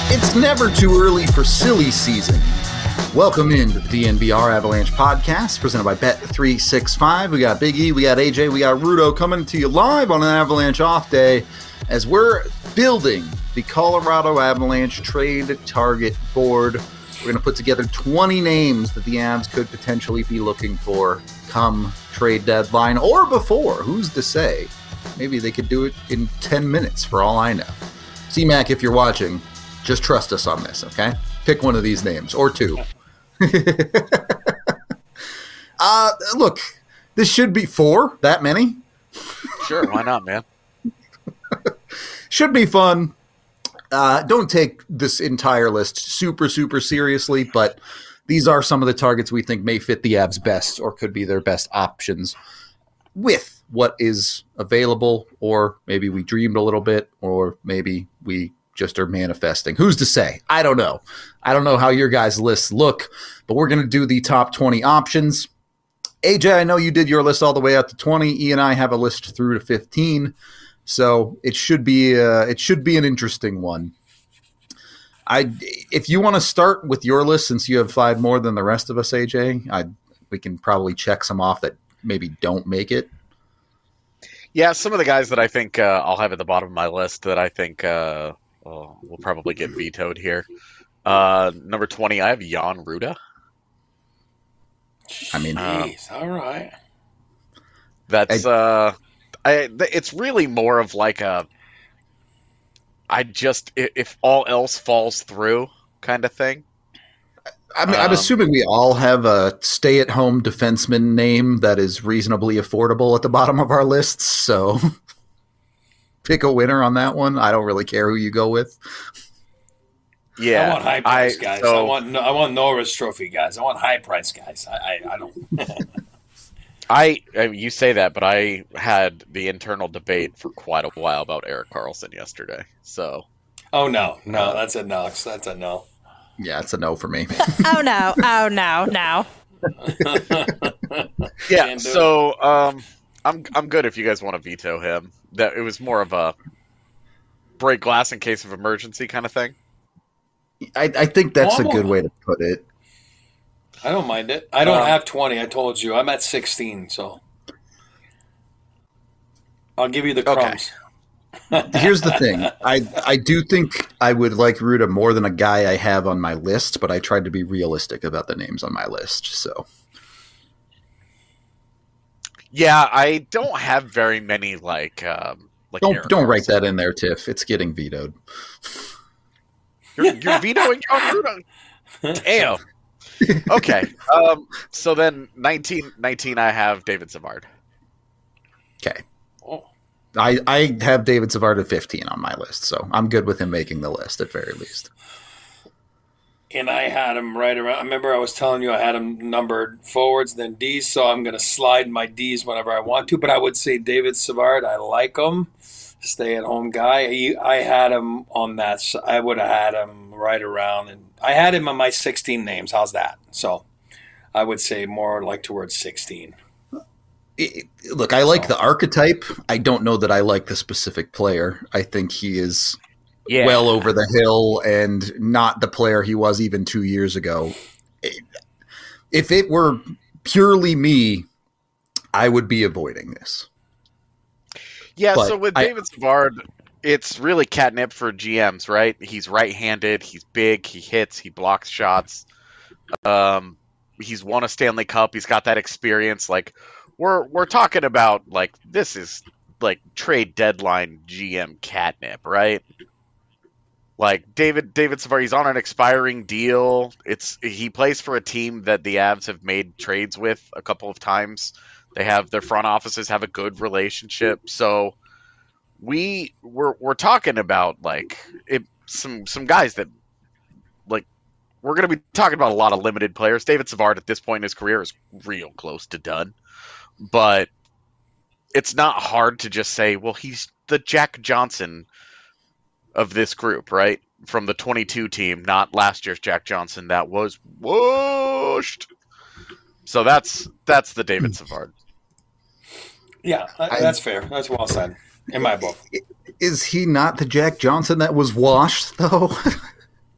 It's never too early for silly season. Welcome into the DNVR Avalanche podcast presented by Bet365. We got Big E, we got AJ, we got Rudo coming to you live on an Avalanche off day as we're building the Colorado Avalanche trade target board. We're going to put together 20 names that the Avs could potentially be looking for come trade deadline or before. Who's to say? Maybe they could do it in 10 minutes for all I know. C-Mac, if you're watching, just trust us on this, okay? Pick one of these names, or two. Look, this should be four, that many. Sure, why not, man? Should be fun. Don't take this entire list super seriously, but these are some of the targets we think may fit the Avs best or could be their best options with what is available, or maybe we dreamed a little bit, or maybe we just are manifesting. Who's to say? I don't know. I don't know how your guys' lists look, but we're going to do the top 20 options. AJ, I know you did your list all the way out to 20. E and I have a list through to 15, so it should be an interesting one. If you want to start with your list, since you have 5 more than the rest of us, AJ, we can probably check some off that maybe don't make it. Yeah, some of the guys that I think I'll have at the bottom of my list that I think will probably get vetoed here. Number 20, I have Jan Rutta. I mean, all right. That's it's really more of like if all else falls through kind of thing. I'm assuming we all have a stay-at-home defenseman name that is reasonably affordable at the bottom of our lists, so pick a winner on that one. I don't really care who you go with. Yeah, I want high price guys. I want Norris Trophy guys. I want high price guys. I don't. You say that, but I had the internal debate for quite a while about Erik Karlsson yesterday. So, no, that's a no. That's a no. Yeah, it's a no for me. Oh no. Yeah, so I'm good if you guys want to veto him. That it was more of a break glass in case of emergency kind of thing. I think that's a good way to put it. I don't mind it. I don't have 20. I told you I'm at 16, so I'll give you the crumbs. Okay. Here's the thing. I do think I would like Rutta more than a guy I have on my list, but I tried to be realistic about the names on my list. So, yeah, I don't have very many like don't write that in there, Tiff. It's getting vetoed. You're vetoing Jan Rutta. Damn. Okay. So then 19 I have David Savard. Okay. I have David Savard at 15 on my list, so I'm good with him making the list at very least. And I had him right around. I remember I was telling you I had him numbered forwards, then D's, so I'm going to slide my D's whenever I want to. But I would say David Savard, I like him. Stay-at-home guy. I had him on that. I would have had him right around. And I had him on my 16 names. How's that? So I would say more like towards 16. Look, I like the archetype. I don't know that I like the specific player. I think he is well over the hill and not the player he was even 2 years ago. If it were purely me, I would be avoiding this. Yeah, so with David Savard, it's really catnip for GMs, right? He's right-handed, he's big, he hits, he blocks shots. He's won a Stanley Cup, he's got that experience. Like, we're talking about, like, this is, like, trade deadline GM catnip, right? Like, David Savard, he's on an expiring deal. He plays for a team that the Avs have made trades with a couple of times. Their front offices have a good relationship. So we're talking about, like, some guys that, like, we're going to be talking about a lot of limited players. David Savard at this point in his career is real close to done. But it's not hard to just say, well, he's the Jack Johnson of this group, right? From the 22 team, not last year's Jack Johnson that was whooshed. So that's the David Savard. Yeah, that's fair. That's well said in my book. Is he not the Jack Johnson that was washed, though?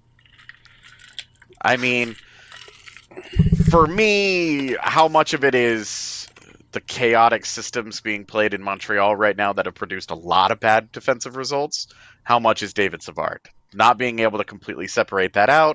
I mean, for me, how much of it is the chaotic systems being played in Montreal right now that have produced a lot of bad defensive results? How much is David Savard? Not being able to completely separate that out.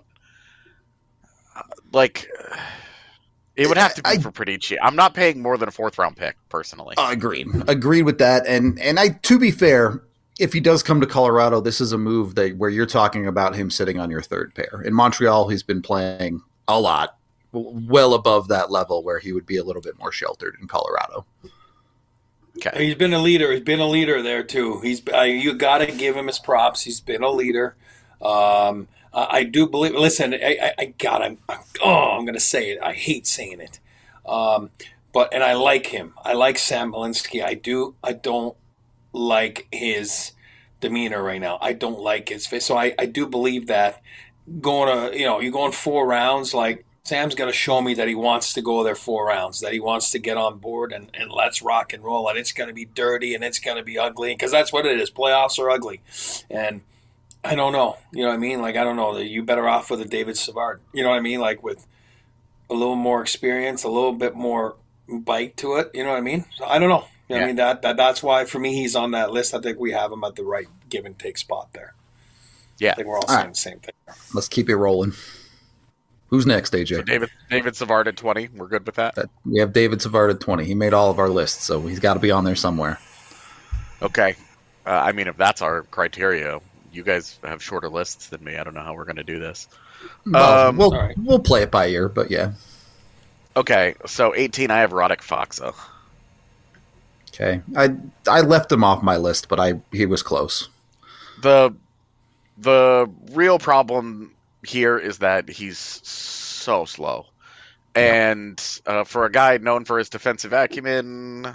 Like, it would have to be for pretty cheap. I'm not paying more than a 4th-round pick, personally. Agreed with that. And to be fair, if he does come to Colorado, this is a move where you're talking about him sitting on your 3rd pair. In Montreal, he's been playing a lot, well above that level where he would be a little bit more sheltered in Colorado. Okay. He's been a leader. He's been a leader there too. You got to give him his props. He's been a leader. I do believe. Listen, I'm going to say it. I hate saying it, but I like him. I like Sam Malinski. I don't like his demeanor right now. I don't like his face. So I do believe that you're going 4 rounds. Like, Sam's going to show me that he wants to go there 4 rounds, that he wants to get on board and let's rock and roll. And it's going to be dirty and it's going to be ugly, because that's what it is. Playoffs are ugly. And I don't know. You know what I mean? Like, I don't know. You better off with a David Savard. You know what I mean? Like, with a little more experience, a little bit more bite to it. You know what I mean? So I don't know. You know what I mean? That's why, for me, he's on that list. I think we have him at the right give and take spot there. Yeah. I think we're all saying the same thing. Let's keep it rolling. Who's next, AJ? So David Savard at 20. We're good with that? We have David Savard at 20. He made all of our lists, so he's got to be on there somewhere. Okay. I mean, if that's our criteria, you guys have shorter lists than me. I don't know how we're going to do this. We'll play it by ear, but yeah. Okay, so 18, I have Radek Faksa. Okay. I left him off my list, but he was close. The real problem here is that he's so slow. And for a guy known for his defensive acumen,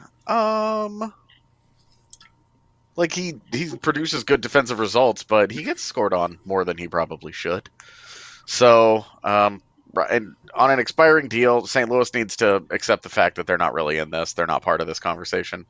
like he produces good defensive results, but he gets scored on more than he probably should. So, and on an expiring deal, St. Louis needs to accept the fact that they're not really in this. They're not part of this conversation.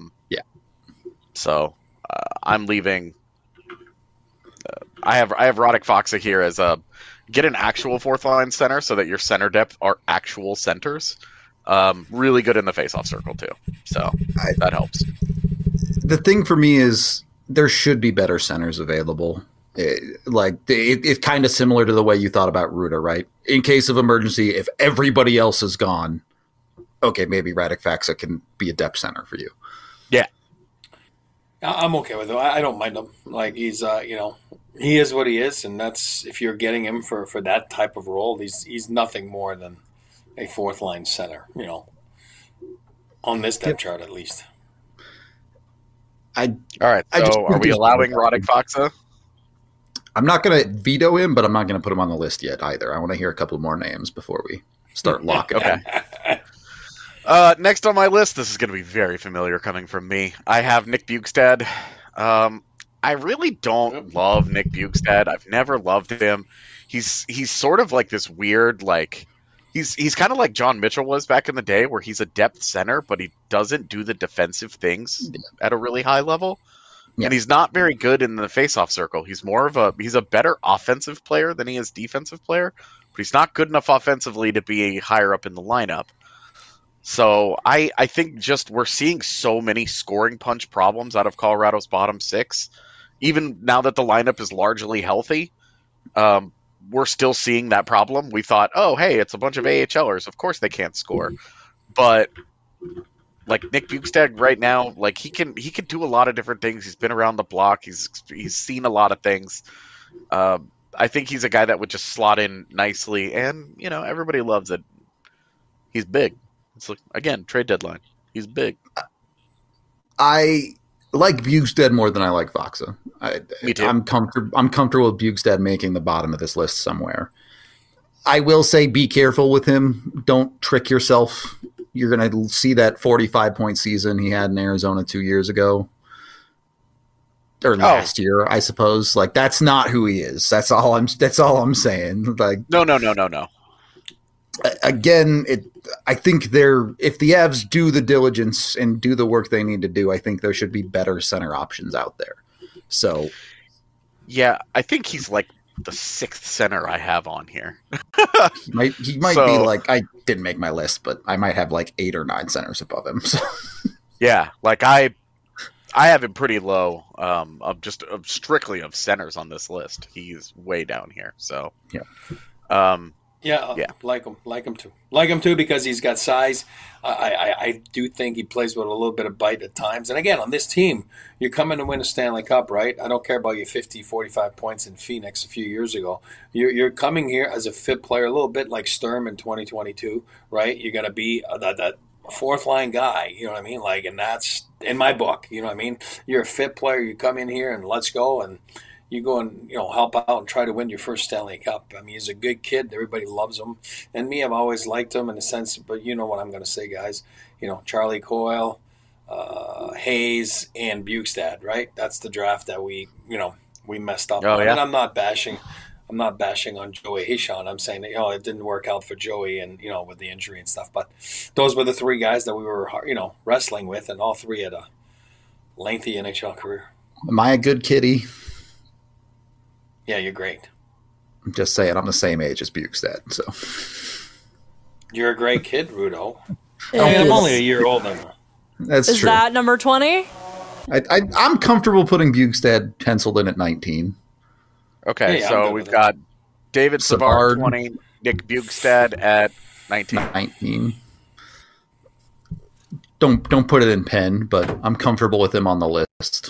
So I'm leaving. I have Radek Faksa here as get an actual 4th-line center so that your center depth are actual centers. Really good in the faceoff circle too. So that helps. The thing for me is there should be better centers available. It's kind of similar to the way you thought about Ruda, right? In case of emergency, if everybody else is gone, okay, maybe Radek Faksa can be a depth center for you. Yeah. I'm okay with him. I don't mind him. Like, he's, he is what he is, and that's, if you're getting him for that type of role, he's nothing more than a 4th-line center, on this depth chart at least. All right, so are we allowing Radek Faksa? I'm not going to veto him, but I'm not going to put him on the list yet either. I want to hear a couple more names before we start locking okay. Next on my list, this is going to be very familiar coming from me. I have Nick Bjugstad. I really don't love Nick Bjugstad. I've never loved him. He's sort of like this weird, like, he's kind of like John Mitchell was back in the day, where he's a depth center, but he doesn't do the defensive things at a really high level. Yeah. And he's not very good in the faceoff circle. He's he's a better offensive player than he is defensive player, but he's not good enough offensively to be higher up in the lineup. So I think just we're seeing so many scoring punch problems out of Colorado's bottom 6. Even now that the lineup is largely healthy, we're still seeing that problem. We thought, oh, hey, it's a bunch of AHLers. Of course they can't score. But like Nick Bjugstad right now, like he can do a lot of different things. He's been around the block. He's seen a lot of things. I think he's a guy that would just slot in nicely, and everybody loves it. He's big. It's like, again, trade deadline. He's big. I like Bjugstad more than I like Faksa. Me too. I'm comfortable with Bjugstad making the bottom of this list somewhere. I will say be careful with him. Don't trick yourself. You're going to see that 45-point season he had in Arizona 2 years ago. Or last year, I suppose. Like, that's not who he is. That's all I'm saying. Like, No. Again, I think if the Avs do the diligence and do the work they need to do, I think there should be better center options out there. So, yeah, I think he's like the sixth center I have on here. He might be like, I didn't make my list, but I might have like 8 or 9 centers above him. So. Yeah, like I have him pretty low. Strictly of centers on this list. He's way down here. So yeah. Like him too because he's got size. I do think he plays with a little bit of bite at times. And again, on this team, you're coming to win a Stanley Cup, right? I don't care about your 50, 45 points in Phoenix a few years ago. You're coming here as a fit player, a little bit like Sturm in 2022, right? You're going to be that fourth line guy, you know what I mean? Like, and that's in my book, you know what I mean? You're a fit player. You come in here and let's go and you go and help out and try to win your first Stanley Cup. I mean, he's a good kid. Everybody loves him, and me, I've always liked him in a sense. But you know what I'm going to say, guys. Charlie Coyle, Hayes, and Bjugstad. Right? That's the draft that we messed up. Oh, yeah. And I'm not bashing on Joey Hishon. I'm saying that it didn't work out for Joey, and with the injury and stuff. But those were the 3 guys that we were wrestling with, and all 3 had a lengthy NHL career. Am I a good kitty? Yeah, you're great. I'm just saying, I'm the same age as Bjugstad, so. You're a great kid, Rudo. I'm only a year older. That's Is true. that number 20? I'm comfortable putting Bjugstad penciled in at 19. Okay, so we've got David Savard 20, Nick Bjugstad at 19. Don't put it in pen, but I'm comfortable with him on the list.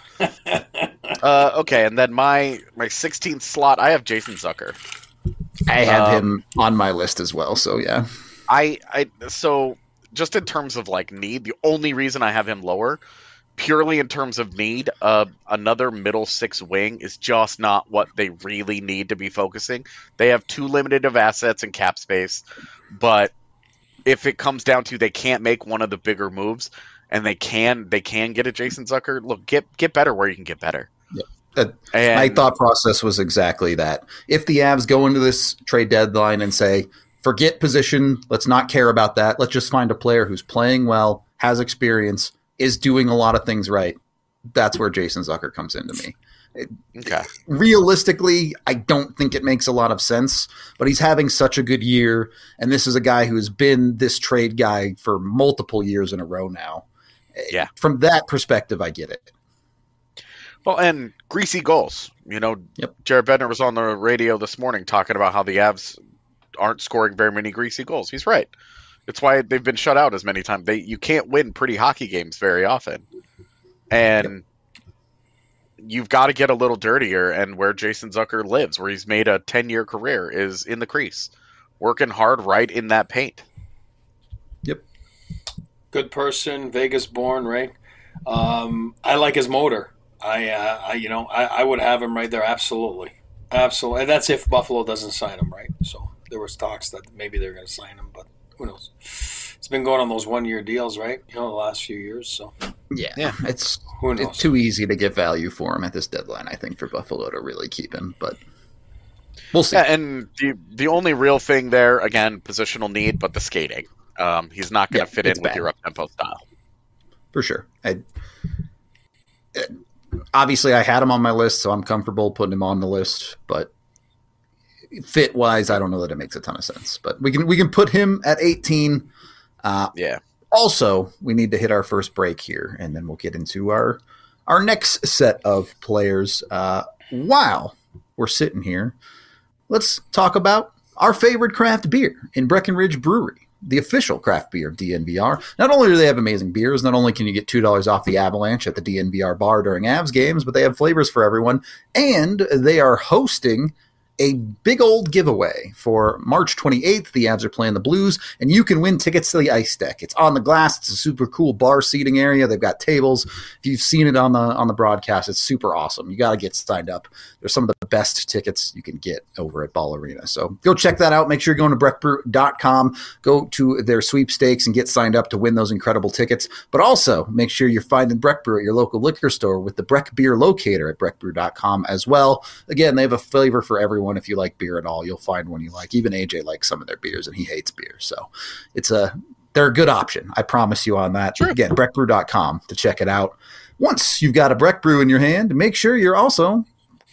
Okay, and then my 16th slot, I have Jason Zucker. I have him on my list as well, so yeah. So just in terms of like need, the only reason I have him lower, purely in terms of need, another middle 6 wing is just not what they really need to be focusing. They have too limited of assets and cap space, but if it comes down to they can't make one of the bigger moves, and they can get a Jason Zucker. Look, get better where you can get better. Yeah. My thought process was exactly that. If the Avs go into this trade deadline and say, forget position, let's not care about that. Let's just find a player who's playing well, has experience, is doing a lot of things right. That's where Jason Zucker comes into me. Okay. Realistically, I don't think it makes a lot of sense, but he's having such a good year, and this is a guy who has been this trade guy for multiple years in a row now. Yeah. From that perspective, I get it. Well, and greasy goals. Jared Bednar was on the radio this morning talking about how the Avs aren't scoring very many greasy goals. He's right. It's why they've been shut out as many times. You can't win pretty hockey games very often. And you've got to get a little dirtier, and where Jason Zucker lives, where he's made a 10-year career, is in the crease. Working hard right in that paint. Yep. Good person, Vegas born, right? I like his motor. I would have him right there, absolutely. And that's if Buffalo doesn't sign him, right? So there was talks that maybe they're going to sign him, but who knows? It's been going on those 1-year deals, right? The last few years. So yeah, it's who knows? It's too easy to get value for him at this deadline, I think, for Buffalo to really keep him, but we'll see. Yeah, and the only real thing there, again, positional need, but the skating. He's not going to fit in with your up-tempo style. For sure. Obviously, I had him on my list, so I'm comfortable putting him on the list. But fit-wise, I don't know that it makes a ton of sense. But we can put him at 18. Yeah. Also, we need to hit our first break here, and then we'll get into our next set of players. While we're sitting here, let's talk about our favorite craft beer in Breckenridge Brewery, the official craft beer of DNVR. Not only do they have amazing beers, not only can you get $2 off the Avalanche at the DNVR bar during Avs games, but they have flavors for everyone, and they are hosting a big old giveaway for March 28th. The Avs are playing the Blues, and you can win tickets to the Ice Deck. It's on the glass. It's a super cool bar seating area. They've got tables. If you've seen it on the broadcast, it's super awesome. You got to get signed up. There's some of the best tickets you can get over at Ball Arena. So go check that out. Make sure you're going to breckbrew.com. Go to their sweepstakes and get signed up to win those incredible tickets. But also make sure you're finding Breck Brew at your local liquor store with the Breck Beer Locator at breckbrew.com as well. Again, they have a flavor for everyone. If you like beer at all, you'll find one you like. Even AJ likes some of their beers, and he hates beer. So they're a good option. I promise you on that. Sure. Again, breckbrew.com to check it out. Once you've got a Breck Brew in your hand, make sure you're also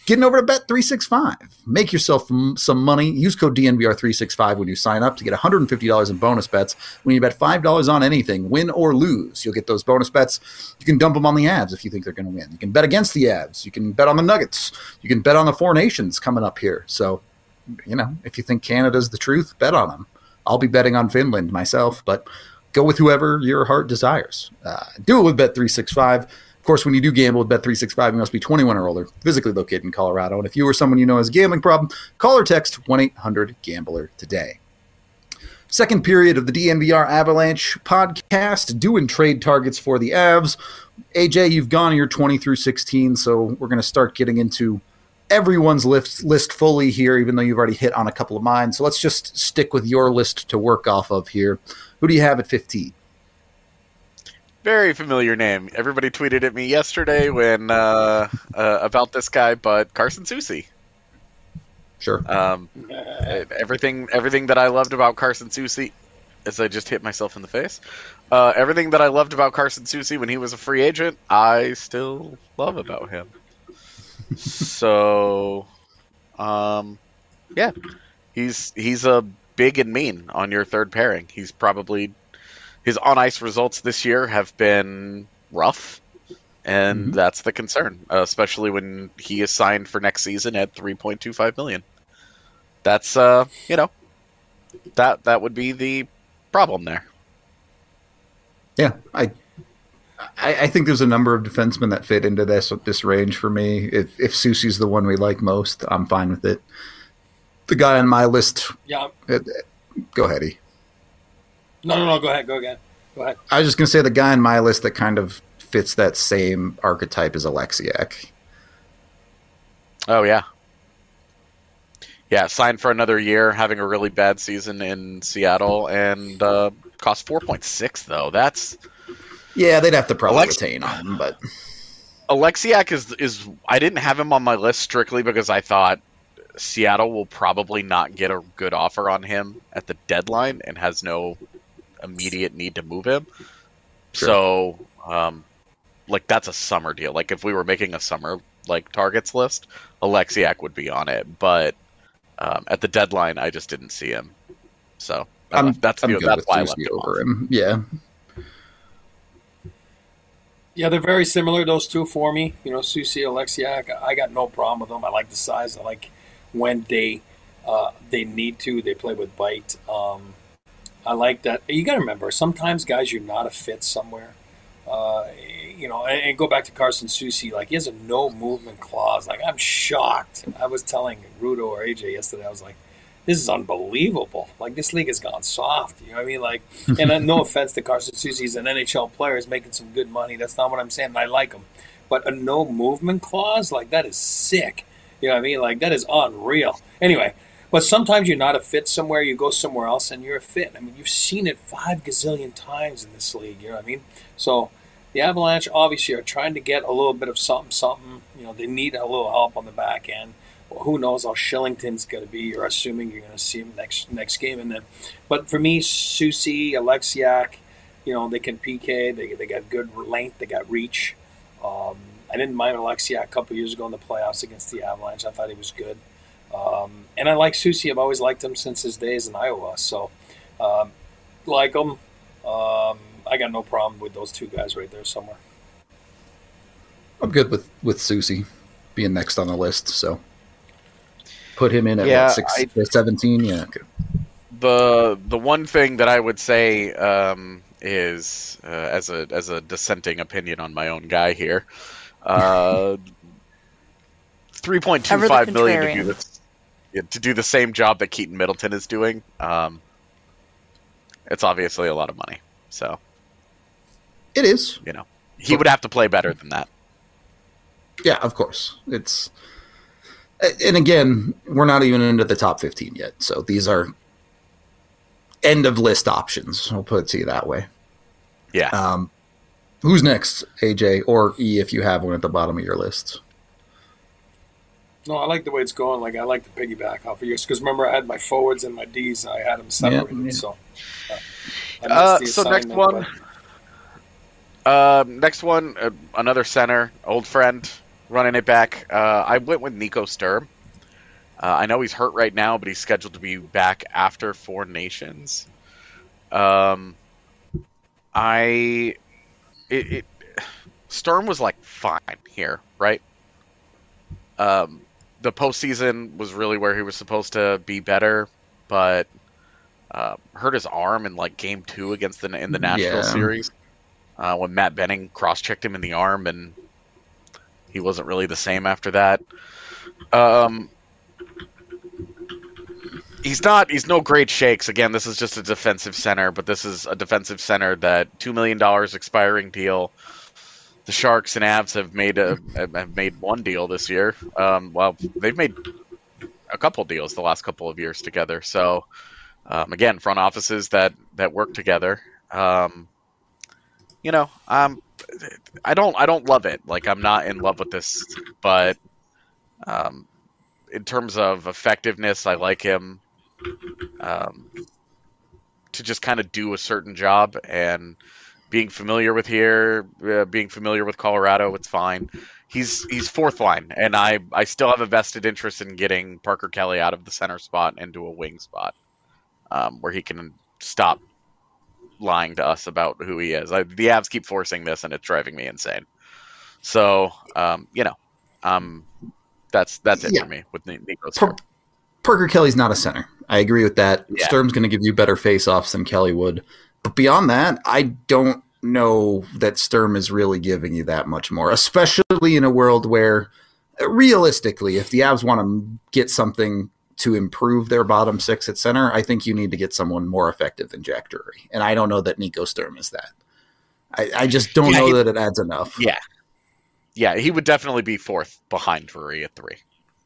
getting over to Bet365. Make yourself some money. Use code DNVR365 when you sign up to get $150 in bonus bets. When you bet $5 on anything, win or lose, you'll get those bonus bets. You can dump them on the Avs if you think they're going to win. You can bet against the Avs. You can bet on the Nuggets. You can bet on the Four Nations coming up here. So, if you think Canada's the truth, bet on them. I'll be betting on Finland myself, but go with whoever your heart desires. Do it with Bet365. Of course, when you do gamble with Bet365, you must be 21 or older, physically located in Colorado. And if you or someone you know has a gambling problem, call or text 1-800-GAMBLER today. Second period of the DNVR Avalanche podcast, doing trade targets for the Avs. AJ, you've gone your 20 through 16, so we're going to start getting into everyone's list fully here, even though you've already hit on a couple of mine. So let's just stick with your list to work off of here. Who do you have at 15? Very familiar name. Everybody tweeted at me yesterday when about this guy, but Carson Soucy. Sure. Everything that I loved about Carson Soucy, as I just hit myself in the face, everything that I loved about Carson Soucy when he was a free agent, I still love about him. So, yeah, he's a big and mean on your third pairing. He's probably his on ice results this year have been rough, and that's the concern, especially when he is signed for next season at $3.25 million. That's that would be the problem there. Yeah, I think there's a number of defensemen that fit into this range for me. If Soucy's the one we like most, I'm fine with it. The guy on my list. Yeah. Go ahead, E. No. Go ahead. Go again. Go ahead. I was just gonna say the guy on my list that kind of fits that same archetype is Alexiak. Oh yeah. Yeah, signed for another year, having a really bad season in Seattle, and cost 4.6 though. That's they'd have to probably retain on him, but Alexiak is I didn't have him on my list strictly because I thought Seattle will probably not get a good offer on him at the deadline and has no immediate need to move him. Sure. So, that's a summer deal. Like, if we were making a summer, targets list, Alexiak would be on it. But at the deadline, I just didn't see him. So, that's why I left him over him. Yeah. Yeah, they're very similar, those two, for me. Soucy, Alexiak, I got no problem with them. I like the size. I like when they need to. They play with bite. I like that. You got to remember, sometimes, guys, you're not a fit somewhere. And go back to Carson Soucy. He has a no movement clause. I'm shocked. I was telling Rudo or AJ yesterday, I was like, this is unbelievable. This league has gone soft. You know what I mean? And no offense to Carson Soucy, he's an NHL player. He's making some good money. That's not what I'm saying. I like him. But a no movement clause, that is sick. You know what I mean? That is unreal. Anyway, but sometimes you're not a fit somewhere. You go somewhere else and you're a fit. I mean, you've seen it 5 gazillion times in this league. You know what I mean? So the Avalanche obviously are trying to get a little bit of something. They need a little help on the back end. Well, who knows how Shillington's going to be? You're assuming you're going to see him next game, and then. But for me, Soucy, Alexiak, they can PK. They got good length. They got reach. I didn't mind Alexiak a couple years ago in the playoffs against the Avalanche. I thought he was good, and I like Soucy. I've always liked him since his days in Iowa. So, like him. I got no problem with those two guys right there somewhere. I'm good with Soucy being next on the list. So. Put him in at 17. Yeah. Okay. The one thing that I would say is as a dissenting opinion on my own guy here, $3.25 million to do the same job that Keaton Middleton is doing. It's obviously a lot of money. So it is. He would have to play better than that. Yeah, of course. And again, we're not even into the top 15 yet. So these are end of list options. I'll put it to you that way. Yeah. Who's next, AJ or E, if you have one at the bottom of your list? No, I like the way it's going. I like to piggyback off of yours because remember I had my forwards and my Ds. I had them separated. Yeah. So, next one. Next one, another center, old friend, running it back. I went with Nico Sturm. I know he's hurt right now, but he's scheduled to be back after Four Nations. Sturm was like fine here, right? The postseason was really where he was supposed to be better, but hurt his arm in like game 2 against in the Nashville series when Matt Benning cross-checked him in the arm, and he wasn't really the same after that. He's no great shakes. Again, this is just a defensive center, but this is a defensive center that $2 million expiring deal. The Sharks and Avs have made one deal this year. Well, they've made a couple deals the last couple of years together. So, again, front offices that work together. I don't love it. Like, I'm not in love with this, but in terms of effectiveness, I like him to just kind of do a certain job, and being familiar with Colorado, it's fine. He's fourth line, and I still have a vested interest in getting Parker Kelly out of the center spot into a wing spot, where he can stop lying to us about who he is. The Avs keep forcing this, and it's driving me insane. So, that's it for me with Nico Sturm. Parker Kelly's not a center. I agree with that. Yeah. Sturm's going to give you better face-offs than Kelly would. But beyond that, I don't know that Sturm is really giving you that much more, especially in a world where, realistically, if the Avs want to get something to improve their bottom six at center, I think you need to get someone more effective than Jack Drury. And I don't know that Nico Sturm is that. I just don't know that it adds enough. Yeah. Yeah, he would definitely be fourth behind Drury at 3.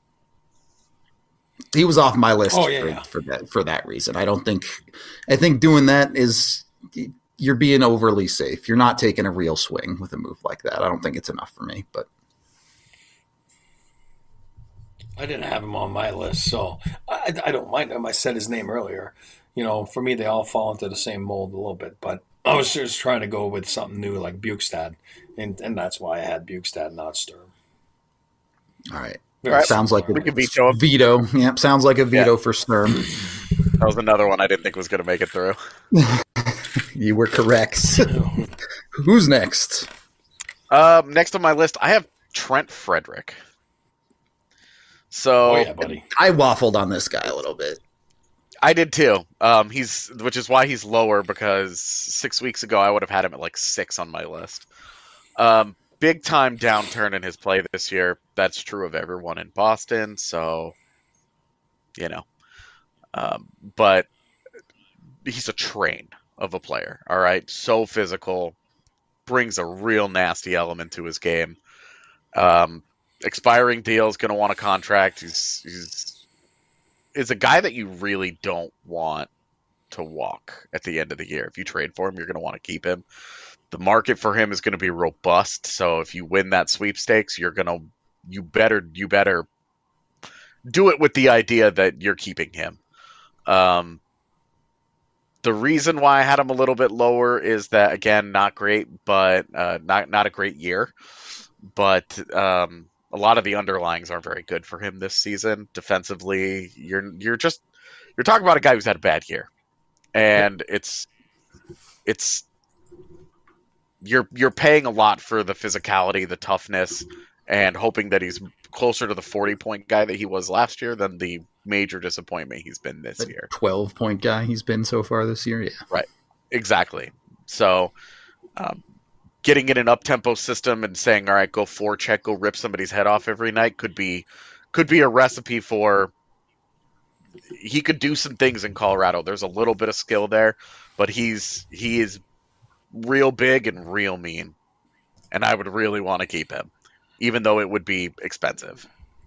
He was off my list for that reason. I think doing that is, you're being overly safe. You're not taking a real swing with a move like that. I don't think it's enough for me, but I didn't have him on my list, so I don't mind him. I said his name earlier. For me, they all fall into the same mold a little bit, but I was just trying to go with something new like Bukestad, and that's why I had Bukestad, not Sturm. All right. Right. Sounds like a veto. Yep, sounds like a veto for Sturm. That was another one I didn't think was going to make it through. You were correct. Who's next? Next on my list, I have Trent Frederick. So, buddy. I waffled on this guy a little bit. I did too. Which is why he's lower, because 6 weeks ago I would have had him at like 6 on my list. Big time downturn in his play this year. That's true of everyone in Boston. So, but he's a train of a player. All right. So physical, brings a real nasty element to his game. Expiring deal is going to want a contract. He's a guy that you really don't want to walk at the end of the year. If you trade for him, you're going to want to keep him. The market for him is going to be robust. So if you win that sweepstakes, you better do it with the idea that you're keeping him. The reason why I had him a little bit lower is that, again, not great, but not a great year. But a lot of the underlyings aren't very good for him this season. Defensively, you're talking about a guy who's had a bad year, and you're paying a lot for the physicality, the toughness, and hoping that he's closer to the 40-point guy that he was last year than the major disappointment he's been this year. 12-point guy he's been so far this year, yeah. Right, exactly. So getting in an up-tempo system and saying, all right, go forecheck, go rip somebody's head off every night could be a recipe for he could do some things in Colorado. There's a little bit of skill there, but he is real big and real mean, and I would really want to keep him, even though it would be expensive.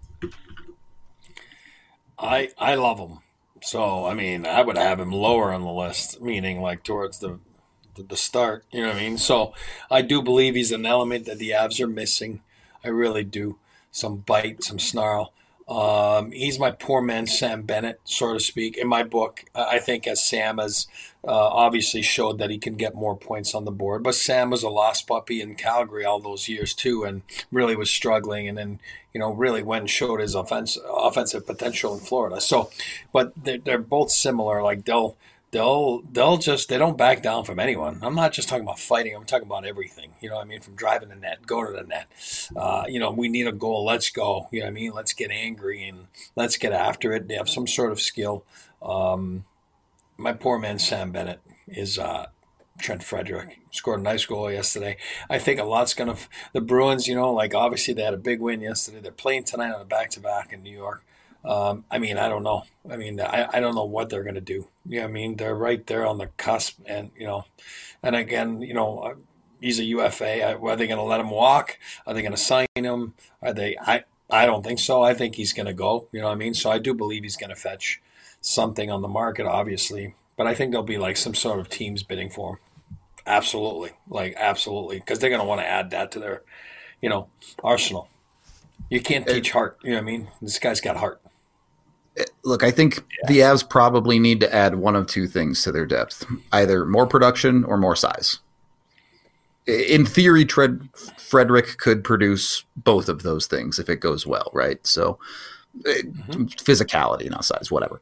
I love him. So, I mean, I would have him lower on the list, meaning like towards the start, you know what I mean? So I do believe he's an element that the Avs are missing. I really do. Some bite, some snarl. He's my poor man Sam Bennett, so to speak. In my book, I think as Sam has obviously showed that he can get more points on the board, but Sam was a lost puppy in Calgary all those years too, and really was struggling, and then really went and showed his offensive potential in Florida. So, but they're both similar. Like they'll just they don't back down from anyone. I'm not just talking about fighting. I'm talking about everything. You know what I mean? From driving the net, go to the net. We need a goal. Let's go. You know what I mean? Let's get angry and let's get after it. They have some sort of skill. My poor man Sam Bennett is Trent Frederick. Scored a nice goal yesterday. I think a lot's going to – the Bruins, obviously they had a big win yesterday. They're playing tonight on a back-to-back in New York. I don't know. I don't know what they're going to do. You know what I mean? They're right there on the cusp, and and again, he's a UFA. Are they going to let him walk? Are they going to sign him? Are they? I don't think so. I think he's going to go. You know what I mean? So I do believe he's going to fetch something on the market, obviously, but I think there'll be like some sort of teams bidding for him. Absolutely, because they're going to want to add that to their, arsenal. You can't teach heart. You know what I mean? This guy's got heart. Look, I think the Avs probably need to add one of two things to their depth, either more production or more size. In theory, Frederick could produce both of those things if it goes well, right? So physicality, not size, whatever.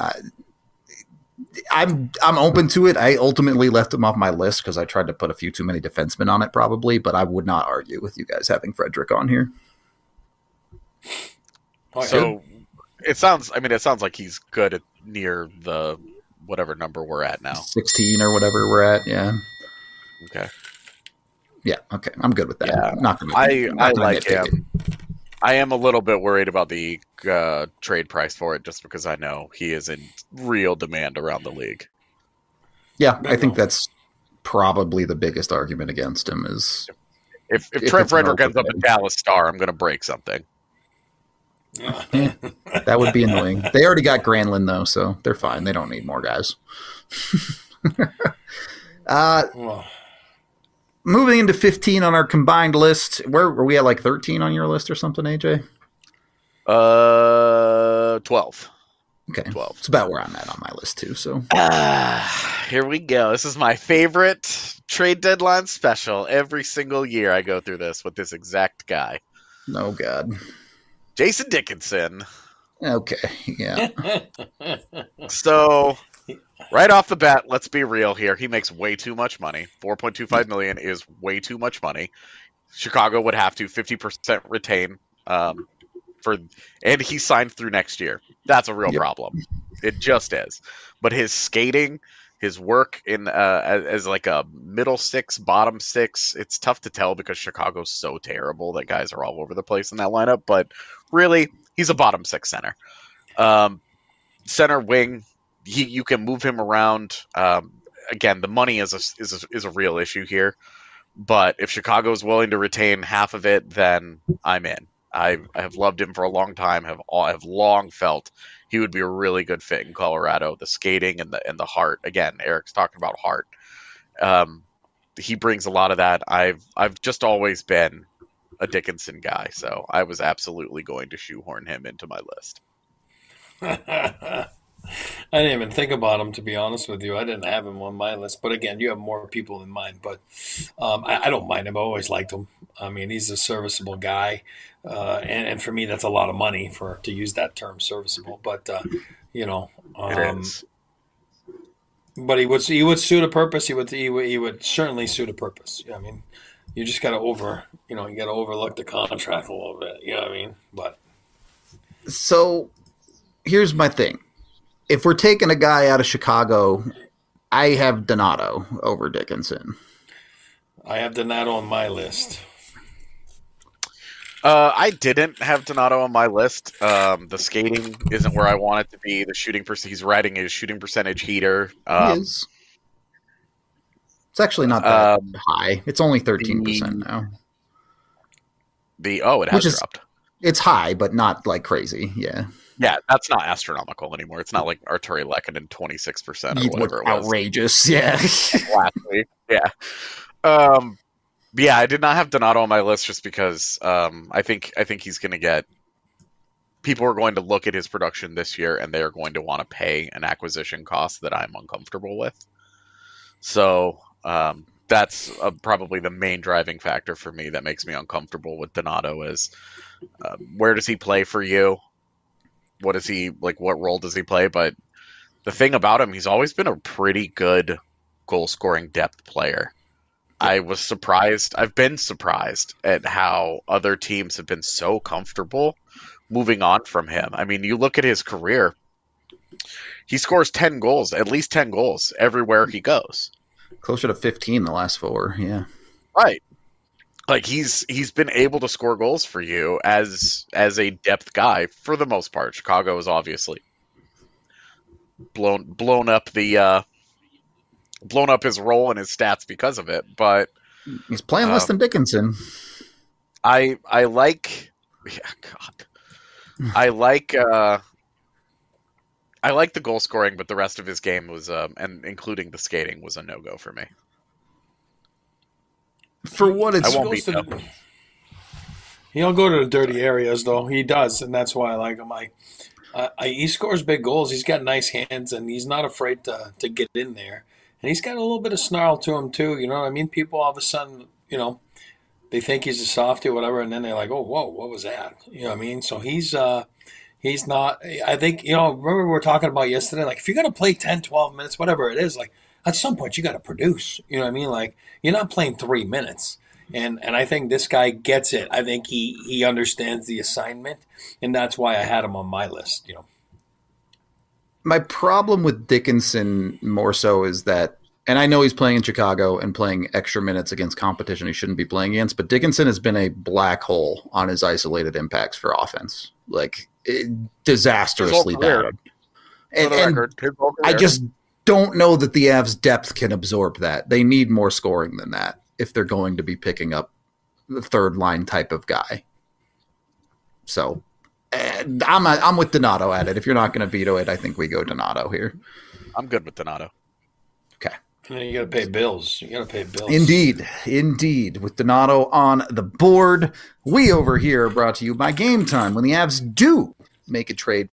I'm open to it. I ultimately left him off my list because I tried to put a few too many defensemen on it probably, but I would not argue with you guys having Frederick on here. So it sounds like he's good at near the whatever number we're at now. 16 or whatever we're at, yeah. Okay. Yeah, okay. I'm good with that. Yeah. I like him. I am a little bit worried about the trade price for it just because I know he is in real demand around the league. Yeah, I think that's probably the biggest argument against him is if Trent Frederick ends up a Dallas Star, I'm going to break something. Yeah, that would be annoying. They already got Granlund, though, so they're fine. They don't need more guys. Moving into 15 on our combined list. Where were we at, like 13 on your list or something, AJ? 12. Okay, 12. It's about where I'm at on my list, too. So here we go. This is my favorite trade deadline special. Every single year I go through this with this exact guy. Oh, God. Jason Dickinson. Okay, yeah. So, right off the bat, let's be real here. He makes way too much money. $4.25 million is way too much money. Chicago would have to 50% retain, and he signed through next year. That's a real problem. It just is. But his skating, his work in as like a middle six, bottom six, it's tough to tell because Chicago's so terrible that guys are all over the place in that lineup. But really, he's a bottom six center. Center wing, you can move him around. Again, the money is a real issue here. But if Chicago is willing to retain half of it, then I'm in. I have loved him for a long time. Have long felt he would be a really good fit in Colorado. The skating and the heart. Again, Eric's talking about heart. He brings a lot of that. I've just always been a Dickinson guy, so I was absolutely going to shoehorn him into my list. I didn't even think about him, to be honest with you. I didn't have him on my list. But again, you have more people in mind. But I don't mind him. I always liked him. I mean, he's a serviceable guy. And for me, that's a lot of money to use that term, serviceable. But, it is. But he would suit a purpose. He would certainly suit a purpose. I mean, you just got to overlook the contract a little bit. You know what I mean? But so here's my thing. If we're taking a guy out of Chicago, I have Donato over Dickinson. I have Donato on my list. I didn't have Donato on my list. The skating isn't where I want it to be. The shooting he's riding his shooting percentage heater. He is. It's actually not that high. It's only 13% now. It has dropped. It's high, but not like crazy. Yeah. Yeah, that's not astronomical anymore. It's not like Arturi Lehkonen 26% or whatever it was. Outrageous, yeah. Last week, yeah. Yeah, I did not have Donato on my list just because I think he's going to get people are going to look at his production this year and they are going to want to pay an acquisition cost that I'm uncomfortable with. So that's probably the main driving factor for me that makes me uncomfortable with Donato is where does he play for you? What is he like? What role does he play? But the thing about him, he's always been a pretty good goal scoring depth player. I was surprised. I've been surprised at how other teams have been so comfortable moving on from him. I mean, you look at his career, he scores 10 goals, at least 10 goals everywhere he goes. Closer to 15 the last 4, yeah. Right. Like he's been able to score goals for you as a depth guy for the most part. Chicago has obviously blown up his role and his stats because of it, but he's playing less than Dickinson. I like the goal scoring, but the rest of his game was and including the skating was a no-go for me. For what it's he'll go to the dirty areas though. He does, and that's why I like him. He scores big goals. He's got nice hands, and he's not afraid to get in there. And he's got a little bit of snarl to him too. You know what I mean? People all of a sudden, they think he's a softie or whatever, and then they're like, "Oh, whoa, what was that?" You know what I mean? So he's not. I think remember we were talking about yesterday. Like if you're gonna play 10, 12 minutes, whatever it is, like at some point you got to produce. You know what I mean? Like you're not playing 3 minutes. And I think this guy gets it. I think he understands the assignment, and that's why I had him on my list. My problem with Dickinson more so is that, and I know he's playing in Chicago and playing extra minutes against competition he shouldn't be playing against, but Dickinson has been a black hole on his isolated impacts for offense, like disastrously bad. And I just don't know that the Avs depth can absorb that. They need more scoring than that if they're going to be picking up the third line type of guy. So I'm with Donato at it. If you're not going to veto it, I think we go Donato here. I'm good with Donato. Okay. And then you got to pay bills. Indeed. With Donato on the board, we over here are brought to you by Game Time. When the Avs do make a trade,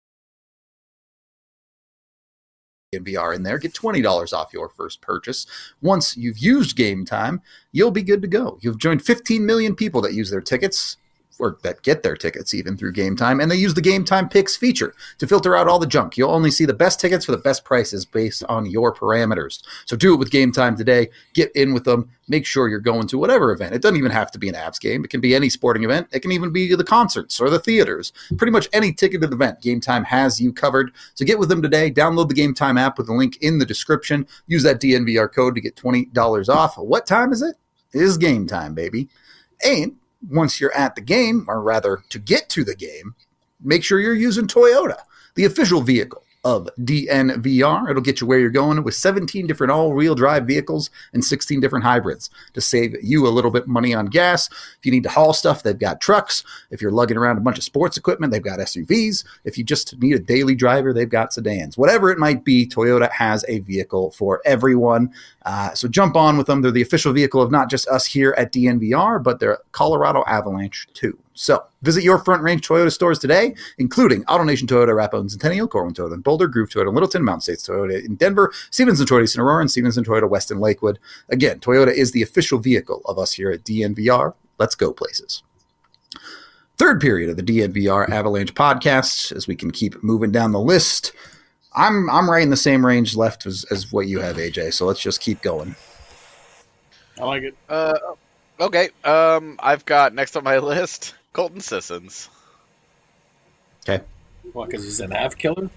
VR in there, get $20 off your first purchase. Once you've used Game Time, you'll be good to go. You've joined 15 million people that use their tickets, or that get their tickets even through Game Time, and they use the Game Time Picks feature to filter out all the junk. You'll only see the best tickets for the best prices based on your parameters. So do it with Game Time today. Get in with them. Make sure you're going to whatever event. It doesn't even have to be an Avs game. It can be any sporting event. It can even be the concerts or the theaters. Pretty much any ticketed event, Game Time has you covered. So get with them today. Download the Game Time app with the link in the description. Use that DNVR code to get $20 off. What time is it? It is Game Time, baby. And once you're at the game, or rather to get to the game, make sure you're using Toyota, the official vehicle of DNVR. It'll get you where you're going with 17 different all-wheel drive vehicles and 16 different hybrids to save you a little bit of money on gas. If you need to haul stuff, they've got trucks. If you're lugging around a bunch of sports equipment, they've got SUVs. If you just need a daily driver, they've got sedans. Whatever it might be, Toyota has a vehicle for everyone. So jump on with them. They're the official vehicle of not just us here at DNVR, but they're Colorado Avalanche too. So visit your Front Range Toyota stores today, including AutoNation Toyota, Rapo Centennial, Corwin Toyota in Boulder, Groove Toyota in Littleton, Mountain States Toyota in Denver, Stevenson Toyota in Aurora, and Stevenson Toyota West in Lakewood. Again, Toyota is the official vehicle of us here at DNVR. Let's go places. Third period of the DNVR Avalanche podcast, as we can keep moving down the list. I'm right in the same range left as what you have, AJ, so let's just keep going. I like it. Okay. I've got next on my list Colton Sissons. Okay. What, because he's an Av killer?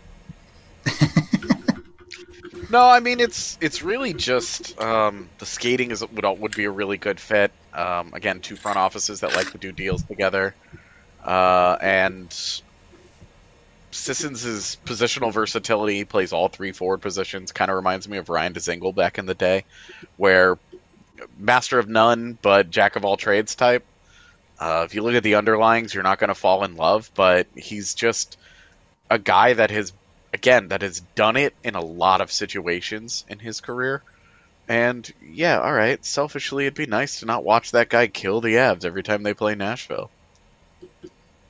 No, I mean it's really just the skating would be a really good fit. Again, two front offices that like to do deals together, and Sissons' positional versatility, plays all three forward positions. Kind of reminds me of Ryan Dzingel back in the day, where master of none but jack of all trades type. If you look at the underlyings, you're not going to fall in love, but he's just a guy that has done it in a lot of situations in his career. And yeah, all right, selfishly, it'd be nice to not watch that guy kill the Avs every time they play Nashville.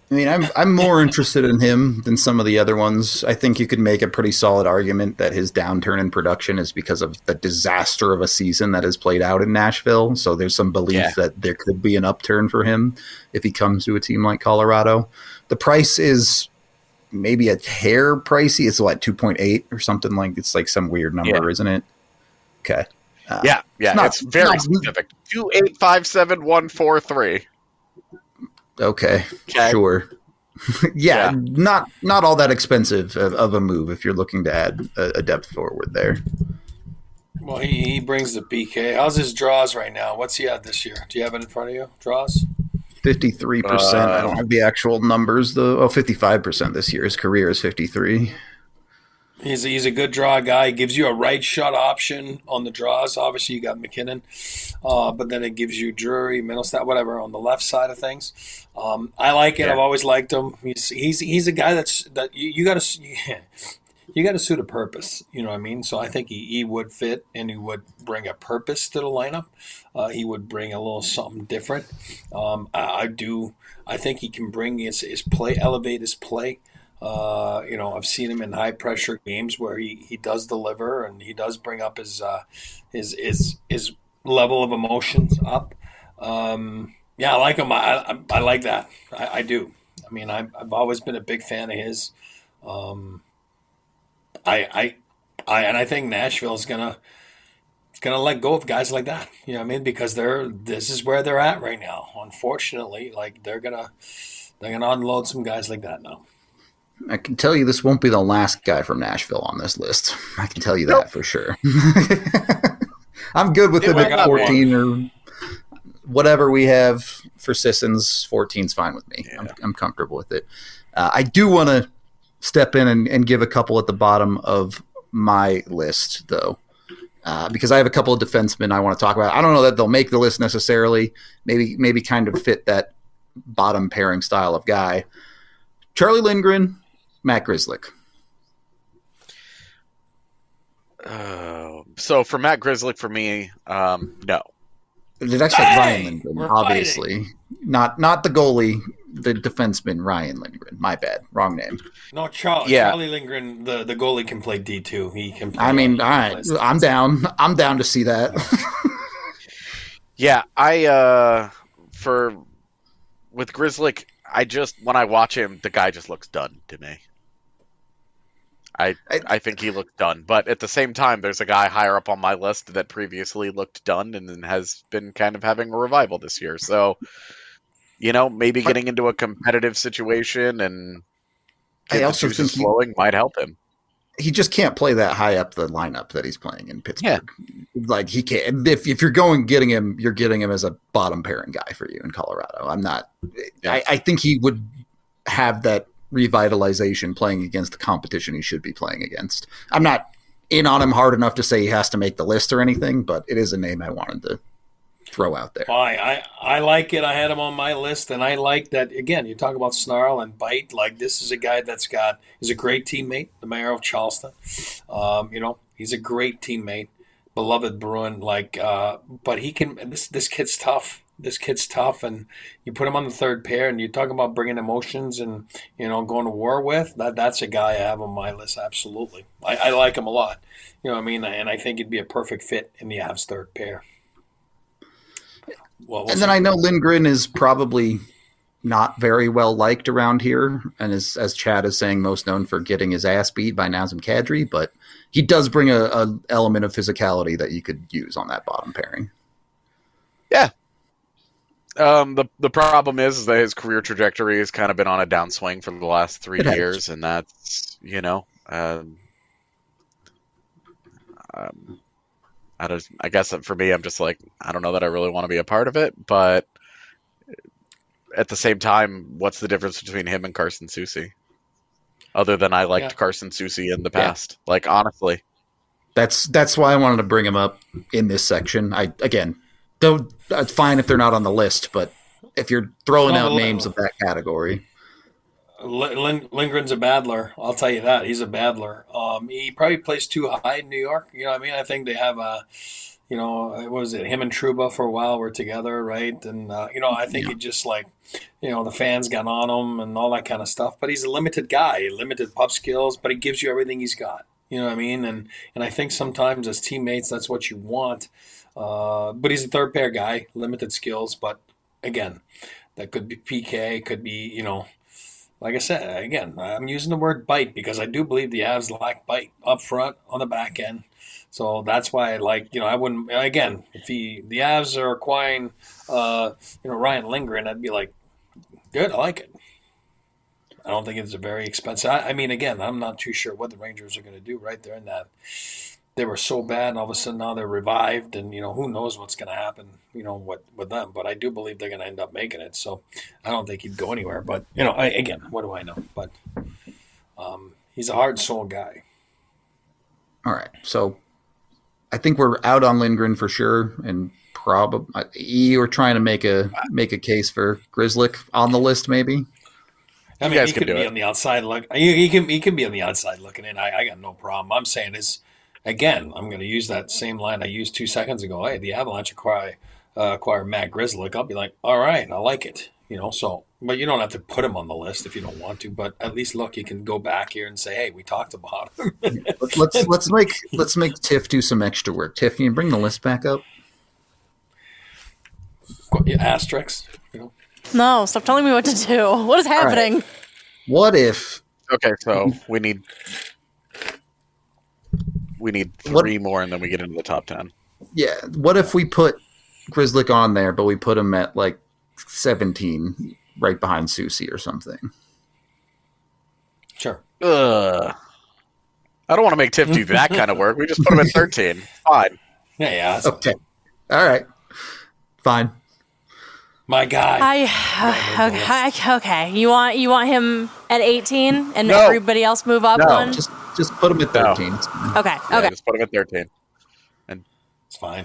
I mean, I'm more interested in him than some of the other ones. I think you could make a pretty solid argument that his downturn in production is because of the disaster of a season that has played out in Nashville. So there's some belief that there could be an upturn for him if he comes to a team like Colorado. The price is maybe a hair pricey. It's like 2.8 or something like. It's like some weird number, isn't it? Okay. It's very specific. 2857143. Okay, sure. Not all that expensive of a move if you're looking to add a depth forward there. Well, he brings the PK. How's his draws right now? What's he at this year? Do you have it in front of you? Draws? 53%. I don't have the actual numbers though. 55% this year. His career is 53. He's a good draw guy. He gives you a right shot option on the draws. Obviously, you got McKinnon, but then it gives you Drury, Middlestat, whatever on the left side of things. I like it. I've always liked him. He's a guy that you got to suit a purpose. You know what I mean? So I think he would fit, and he would bring a purpose to the lineup. He would bring a little something different. I think he can bring his play, elevate his play. I've seen him in high pressure games where he does deliver and he does bring up his level of emotions up. I like him. I like that. I do. I mean, I've always been a big fan of his. I think Nashville is gonna let go of guys like that. You know what I mean? Because this is where they're at right now. Unfortunately, like they're gonna unload some guys like that now. I can tell you this won't be the last guy from Nashville on this list. I can tell you that for sure. I'm good with him at 14 or whatever we have for Sissons. 14's fine with me. Yeah. I'm comfortable with it. I do want to step in and give a couple at the bottom of my list, though, because I have a couple of defensemen I want to talk about. I don't know that they'll make the list necessarily. Maybe kind of fit that bottom pairing style of guy. Charlie Lindgren, Matt Grzelcyk. So for Matt Grzelcyk, for me, no. It's actually Ryan Lindgren, obviously. Not the goalie, the defenseman, Ryan Lindgren. My bad. Wrong name. No, Charlie Lindgren, the goalie can play D2. He can play. I mean, all right. I'm down. I'm down to see that. With Grzelcyk, when I watch him, the guy just looks done to me. I think he looked done, but at the same time, there's a guy higher up on my list that previously looked done and then has been kind of having a revival this year. So, maybe getting into a competitive situation and I also think flowing might help him. He just can't play that high up the lineup that he's playing in Pittsburgh. Yeah. Like he can't. If you're getting him, you're getting him as a bottom pairing guy for you in Colorado. I'm not. Yeah. I think he would have that revitalization playing against the competition he should be playing against. I'm not in on him hard enough to say he has to make the list or anything, but it is a name I wanted to throw out there. I like it. I had him on my list, and I like that. Again, you talk about snarl and bite. Like this is a guy he's a great teammate, the mayor of Charleston. He's a great teammate, beloved Bruin. But he can. This kid's tough. This kid's tough, and you put him on the third pair, and you talk about bringing emotions and going to war with. That's a guy I have on my list. Absolutely, I like him a lot. You know what I mean? And I think he'd be a perfect fit in the Avs third pair. And then I know Lindgren is probably not very well liked around here, and as Chad is saying, most known for getting his ass beat by Nazem Kadri, but he does bring a element of physicality that you could use on that bottom pairing. Yeah. The problem is that his career trajectory has kind of been on a downswing for the last 3 years, and that's I guess for me, I'm just like, I don't know that I really want to be a part of it, but at the same time, what's the difference between him and Carson Soucy? Other than I liked Carson Soucy in the past. Yeah. Like, honestly. That's why I wanted to bring him up in this section. It's fine if they're not on the list, but if you're throwing out names of that category. Lindgren's a battler. I'll tell you that. He's a battler. He probably plays too high in New York. You know what I mean? I think they have Was it him and Trouba for a while were together, right? And, I think it just the fans got on him and all that kind of stuff. But he's a limited guy, limited puck skills, but he gives you everything he's got. You know what I mean? And I think sometimes as teammates, that's what you want. But he's a third pair guy, limited skills. But again, that could be PK, could be, like I said, again, I'm using the word bite because I do believe the Avs lack bite up front, on the back end. So that's why I wouldn't, again, if the Avs are acquiring, Ryan Lindgren, I'd be like, good, I like it. I don't think it's a very expensive. I mean, again, I'm not too sure what the Rangers are going to do right there in that. They were so bad, and all of a sudden now they're revived, and, who knows what's going to happen, with them. But I do believe they're going to end up making it. So I don't think he'd go anywhere. But, again, what do I know? But he's a heart and soul guy. All right. So I think we're out on Lindgren for sure, and probably you're trying to make a case for Grzelcyk on the list, maybe. I mean, he could be on the outside look. He can be on the outside looking in. I got no problem. I'm saying is, again, I'm going to use that same line I used 2 seconds ago. Hey, the Avalanche acquire Matt Grzelcyk. I'll be like, all right, I like it. So, but you don't have to put him on the list if you don't want to. But at least look, you can go back here and say, hey, we talked about him. let's make Tiff do some extra work. Tiff, can you bring the list back up? Asterisks, No, stop telling me what to do. What is happening? Right. What if... Okay, so we need 3 more, and then we get into the top 10. Yeah, what if we put Grzelcyk on there, but we put him at 17, right behind Soucy or something? Sure. I don't want to make Tiff do that kind of work. We just put him at 13. Fine. Yeah. Okay. All right. Fine. My guy. Okay. You want him at 18 and everybody else move up one? Just put him at 13. No. Okay. Just put him at 13. And it's fine.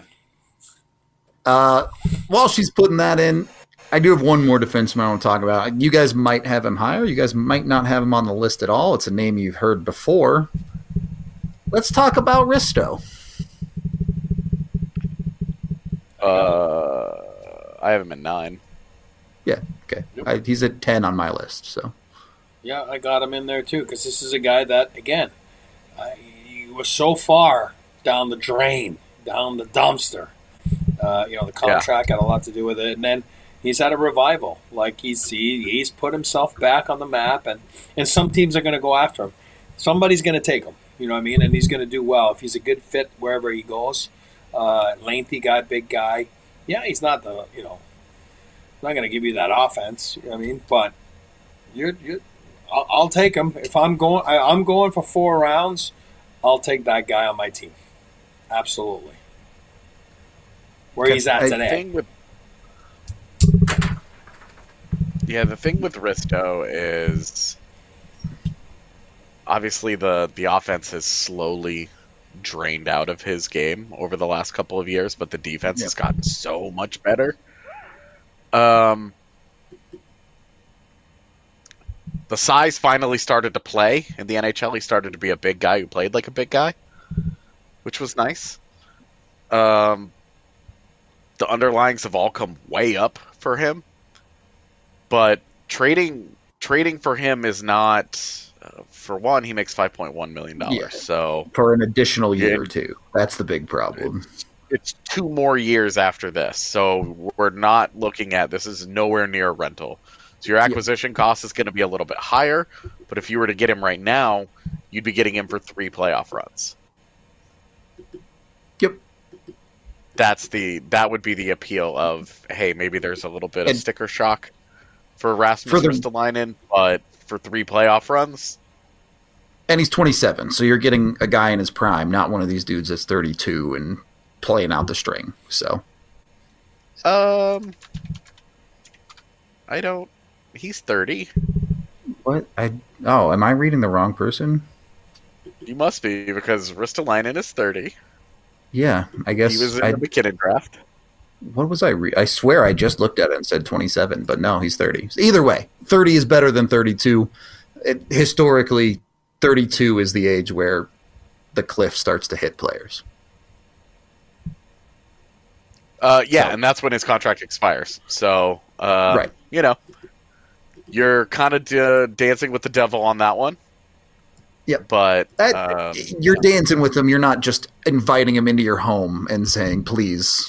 While she's putting that in, I do have one more defenseman I want to talk about. You guys might have him higher. You guys might not have him on the list at all. It's a name you've heard before. Let's talk about Risto. I have him at 9. Yeah, okay. Yep. He's at 10 on my list. So. Yeah, I got him in there too because this is a guy that, again, he was so far down the drain, down the dumpster. The contract had a lot to do with it, and then he's had a revival. He's put himself back on the map, and some teams are going to go after him. Somebody's going to take him. You know what I mean? And he's going to do well if he's a good fit wherever he goes. Lengthy guy, big guy. Yeah, he's not not going to give you that offense. You know what I mean? But I'll take him if I'm going for 4 rounds. I'll take that guy on my team. Absolutely. Where he's at today. The thing with Risto is obviously the offense has slowly drained out of his game over the last couple of years, but the defense has gotten so much better. The size finally started to play in the NHL. He started to be a big guy who played like a big guy, which was nice. The underlyings have all come way up for him, but trading for him is not. For one, he makes $5.1 million. Yeah, so for an additional year or two, that's the big problem. It's 2 more years after this, so we're not looking at this is nowhere near a rental. So your acquisition cost is going to be a little bit higher, but if you were to get him right now, you'd be getting him for 3 playoff runs. Yep. That would be the appeal of, hey, maybe there's a little bit of sticker shock for Rasmus Ristolainen, but for 3 playoff runs. And he's 27, so you're getting a guy in his prime, not one of these dudes that's 32 and playing out the string. So, he's 30. What? Am I reading the wrong person? You must be, because Ristolainen is 30. Yeah, I guess he was in the McKinnon draft. What was I I swear I just looked at it and said 27, but no, he's 30. Either way, 30 is better than 32. Historically, 32 is the age where the cliff starts to hit players. And that's when his contract expires. So, right. You're kind of dancing with the devil on that one. Yep. But you're dancing with him. You're not just inviting him into your home and saying, please.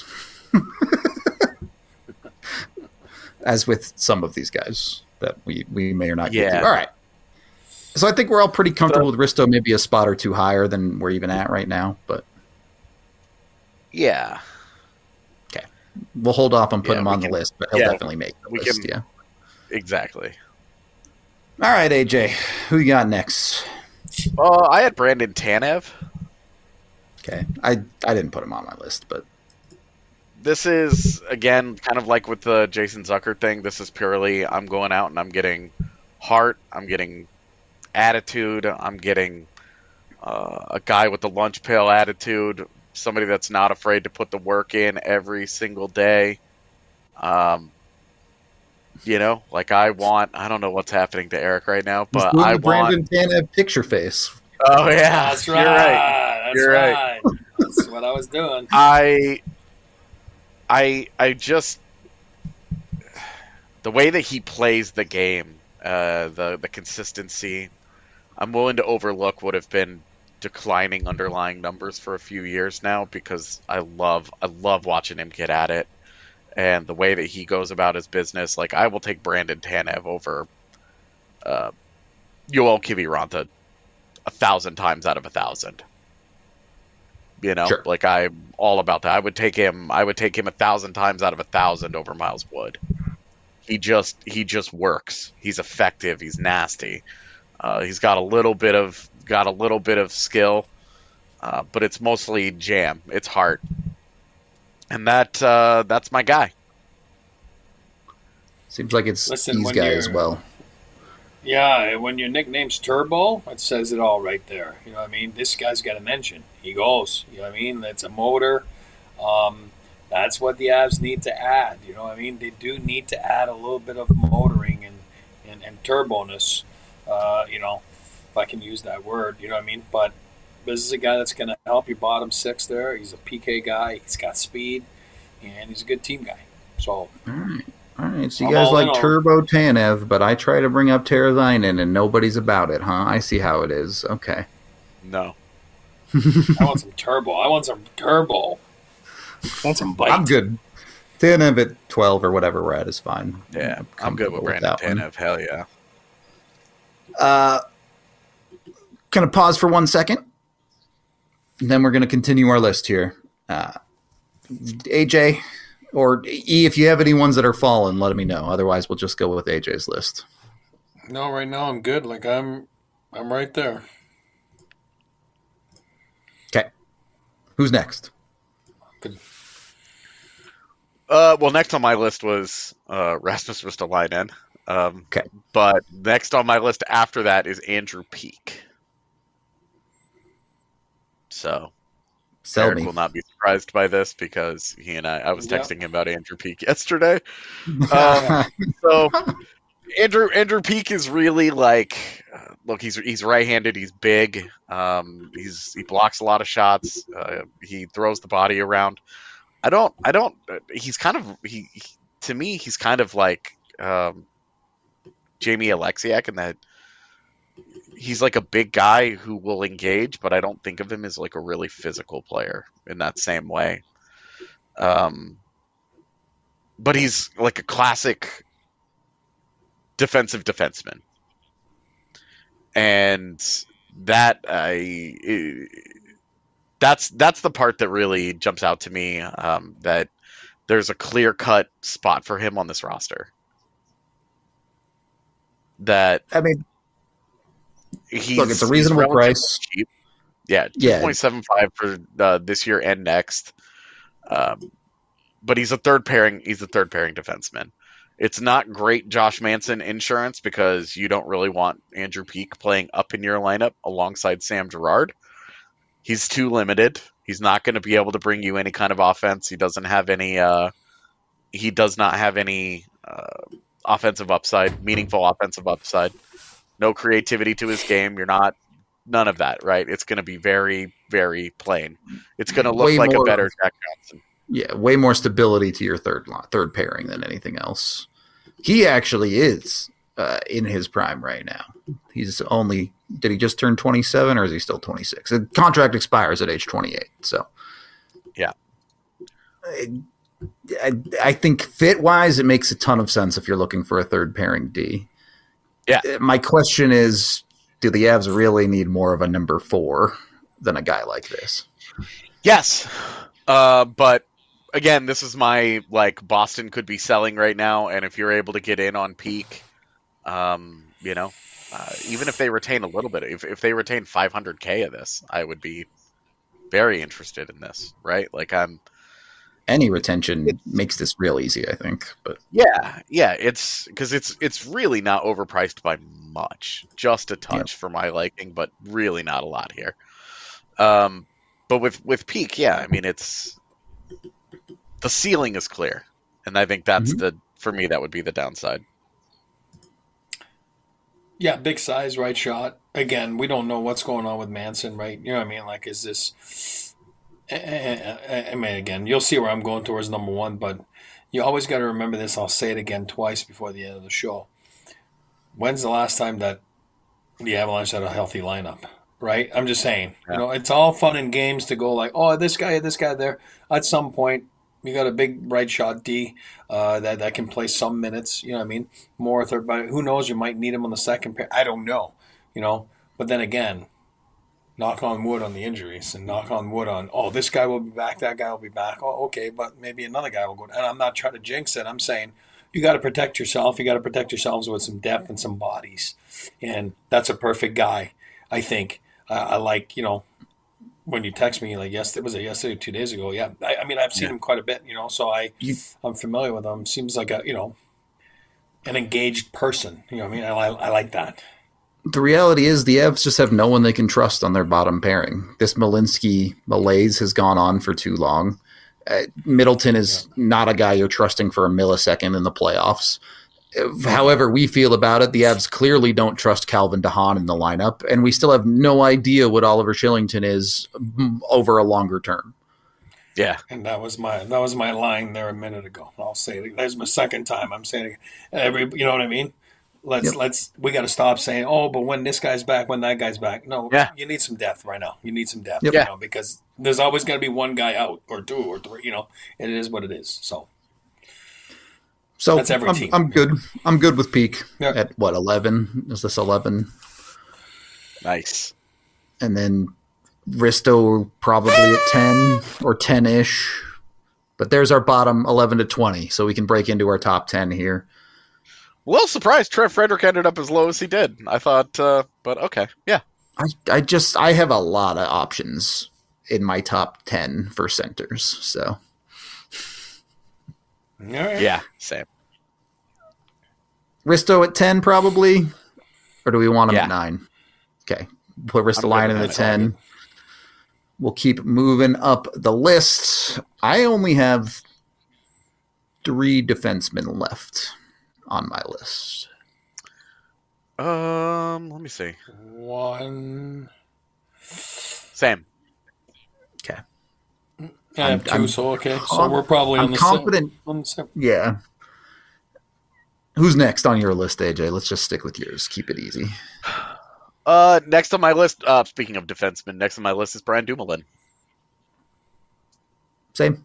As with some of these guys that we may or not get to. All right. So I think we're all pretty comfortable with Risto, maybe a spot or two higher than we're even at right now. But yeah. Okay. We'll hold off on putting him on the list, but he'll definitely make the list. Yeah. Exactly. All right, AJ. Who you got next? I had Brandon Tanev. Okay. I didn't put him on my list, but this is, again, kind of like with the Jason Zucker thing. This is purely I'm going out and I'm getting heart. I'm getting attitude. I'm getting a guy with the lunch pail attitude. Somebody that's not afraid to put the work in every single day. I don't know what's happening to Eric right now, but I want Brandon Tanev picture face. Oh yeah, that's right. You're right. That's what I was doing. I just the way that he plays the game, the consistency, I'm willing to overlook what have been declining underlying numbers for a few years now because I love watching him get at it. And the way that he goes about his business, like I will take Brandon Tanev over Yoel Kiviranta 1,000 times out of 1,000. Sure. Like I'm all about that. I would take him 1,000 times out of 1,000 over Miles Wood. He just works. He's effective. He's nasty. He's got a little bit of skill, but it's mostly jam. It's heart. And that's my guy. Seems like it's E's guy as well. Yeah, when your nickname's Turbo, it says it all right there. You know what I mean? This guy's got an engine. He goes. You know what I mean? That's a motor. That's what the Avs need to add. You know what I mean? They do need to add a little bit of motoring and turboness. If I can use that word. You know what I mean? But this is a guy that's going to help your bottom six there. He's a PK guy. He's got speed, and he's a good team guy. So, all right. So you guys like Turbo Tanev, but I try to bring up Teravainen, and nobody's about it, huh? I see how it is. Okay. No. I want some turbo. I want some bite. I'm good. Tanev at 12 or whatever we're at is fine. Yeah, I'm good with Brandon Tanev. Hell yeah. Kind of pause for 1 second. And then we're going to continue our list here. AJ or E, if you have any ones that are fallen, let me know. Otherwise, we'll just go with AJ's list. No, right now I'm good. Like I'm right there. Okay. Who's next? Good. Well, next on my list was Rasmus Ristolainen. Okay. But next on my list after that is Andrew Peeke. So Eric will not be surprised by this because he and I was texting him about Andrew Peeke yesterday. So Andrew Peeke is really like, look, he's right-handed, he's big, he blocks a lot of shots, he throws the body around. He's kind of to me he's kind of like Jamie Alexiak in that he's like a big guy who will engage, but I don't think of him as like a really physical player in that same way. But he's like a classic defensive defenseman. And that's the part that really jumps out to me, that there's a clear-cut spot for him on this roster. Look, it's a reasonable price. Cheap. Yeah, 2.75 for this year and next. But he's a third pairing defenseman. It's not great Josh Manson insurance because you don't really want Andrew Peeke playing up in your lineup alongside Sam Girard. He's too limited. He's not going to be able to bring you any kind of offense. He does not have any offensive upside, meaningful offensive upside. No creativity to his game. None of that, right? It's going to be very, very plain. It's going to look like a better Jack Johnson. Yeah, way more stability to your third pairing than anything else. He actually is in his prime right now. He's only – did he just turn 27 or is he still 26? The contract expires at age 28, so. Yeah. I think fit-wise, it makes a ton of sense if you're looking for a third pairing D. Yeah. My question is, do the Avs really need more of a number 4 than a guy like this? Yes. But again, this is my, Boston could be selling right now, and if you're able to get in on peak, even if they retain a little bit, if they retain $500K of this, I would be very interested in this, right? Any retention makes this real easy, I think. But yeah, it's because it's really not overpriced by much, just a touch for my liking, but really not a lot here. But with peak, I mean, it's the ceiling is clear, and I think that's for me that would be the downside. Yeah, big size, right shot. Again, we don't know what's going on with Manson, right? You know what I mean? Is this? I mean, again, you'll see where I'm going towards number 1, but you always got to remember this. I'll say it again twice before the end of the show. When's the last time that the Avalanche had a healthy lineup? Right? I'm just saying. Yeah. It's all fun and games to go this guy there. At some point, you got a big right shot D that can play some minutes. You know what I mean? More third, but who knows? You might need him on the second pair. I don't know. But then again, knock on wood on the injuries and knock on wood on, this guy will be back, that guy will be back. Oh, okay, but maybe another guy will go. And I'm not trying to jinx it. I'm saying you got to protect yourself. You got to protect yourselves with some depth and some bodies. And that's a perfect guy, I think. I like, when you text me, yesterday, 2 days ago? Yeah. I mean, I've seen him quite a bit, so I'm familiar with him. Seems like an engaged person. You know what I mean? I like that. The reality is the Avs just have no one they can trust on their bottom pairing. This Malinsky malaise has gone on for too long. Middleton is not a guy you're trusting for a millisecond in the playoffs. However we feel about it, the Avs clearly don't trust Calvin DeHaan in the lineup, and we still have no idea what Oliver Kylington is over a longer term. Yeah, and that was my line there a minute ago. I'll say it. That's my second time I'm saying it. You know what I mean? We got to stop saying, but when this guy's back, when that guy's back. No, you need some depth right now. You need some depth, because there's always going to be one guy out or 2 or 3. And it is what it is. So that's every team. I'm good. I'm good with peak at 11? Is this 11? Nice. And then Risto probably at 10 or 10-ish. But there's our bottom 11 to 20, so we can break into our top 10 here. A little surprised Trev Frederick ended up as low as he did. I thought, but okay, yeah. I have a lot of options in my top 10 for centers, so. All right. Yeah, same. Risto at 10 probably, or do we want him at 9? Okay, put Ristolainen at 10. We'll keep moving up the list. I only have 3 defensemen left on my list. Let me see. 1. Same. Okay. I have 2, so okay. So we're probably on the confident. same. Yeah. Who's next on your list, AJ? Let's just stick with yours. Keep it easy. Next on my list, speaking of defensemen, next on my list is Brian Dumoulin. Same.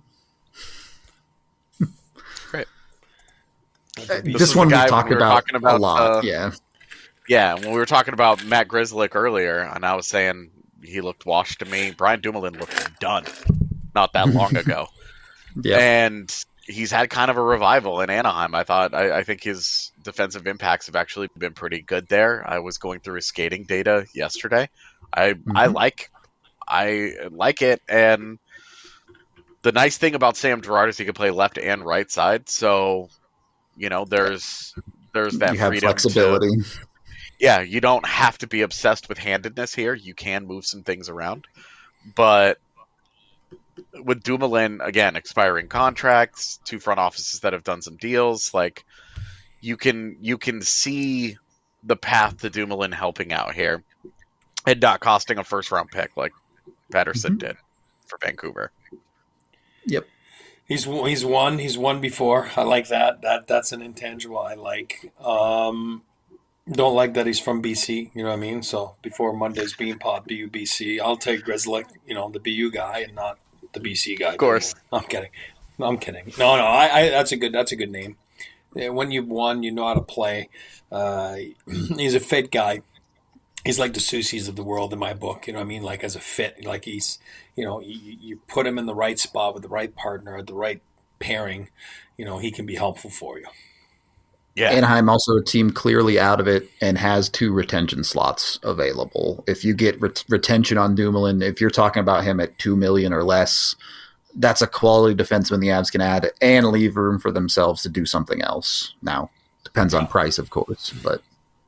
Great. This one we talked about a lot. Yeah, when we were talking about Matt Grzelcyk earlier, and I was saying he looked washed to me, Brian Dumoulin looked done not that long ago. Yeah. And he's had kind of a revival in Anaheim. I think his defensive impacts have actually been pretty good there. I was going through his skating data yesterday. I like it, and the nice thing about Sam Girard is he can play left and right side. So, there's that you have freedom, flexibility. You don't have to be obsessed with handedness here. You can move some things around, but with Dumoulin, again, expiring contracts, 2 front offices that have done some deals, you can see the path to Dumoulin helping out here and not costing a first-round pick like Patterson did for Vancouver. Yep. He's won before. I like that. That's an intangible I like. Don't like that he's from BC. You know what I mean? So before Monday's Bean Pod, BC. I'll take Grzelcyk, the BU guy, and not the BC guy. Of course. I'm kidding. No, I that's a good name. When you've won, you know how to play. He's a fit guy. He's like the Soucies of the world in my book. You know what I mean? Like as a fit, like he's, you put him in the right spot with the right partner at the right pairing. He can be helpful for you. Yeah. Anaheim also a team clearly out of it and has 2 retention slots available. If you get retention on Dumoulin, if you're talking about him at $2 million or less, that's a quality defenseman the Avs can add and leave room for themselves to do something else. Now, depends on price, of course, but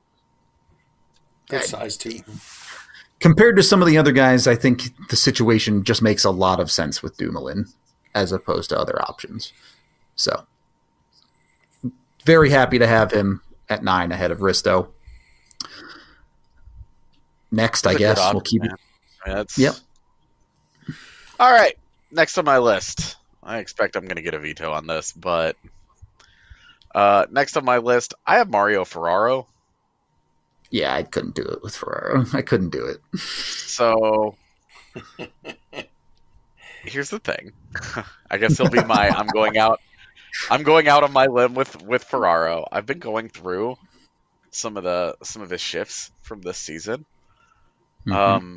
good size too. Compared to some of the other guys, I think the situation just makes a lot of sense with Dumoulin as opposed to other options. So, very happy to have him at 9 ahead of Risto. Next, that's I guess we'll keep it. Yep. All right. Next on my list. I expect I'm going to get a veto on this, but next on my list, I have Mario Ferraro. Yeah, I couldn't do it with Ferraro. I couldn't do it. So, here's the thing. I guess he'll be my I'm going out on my limb with Ferraro. I've been going through some of his shifts from this season. Mm-hmm.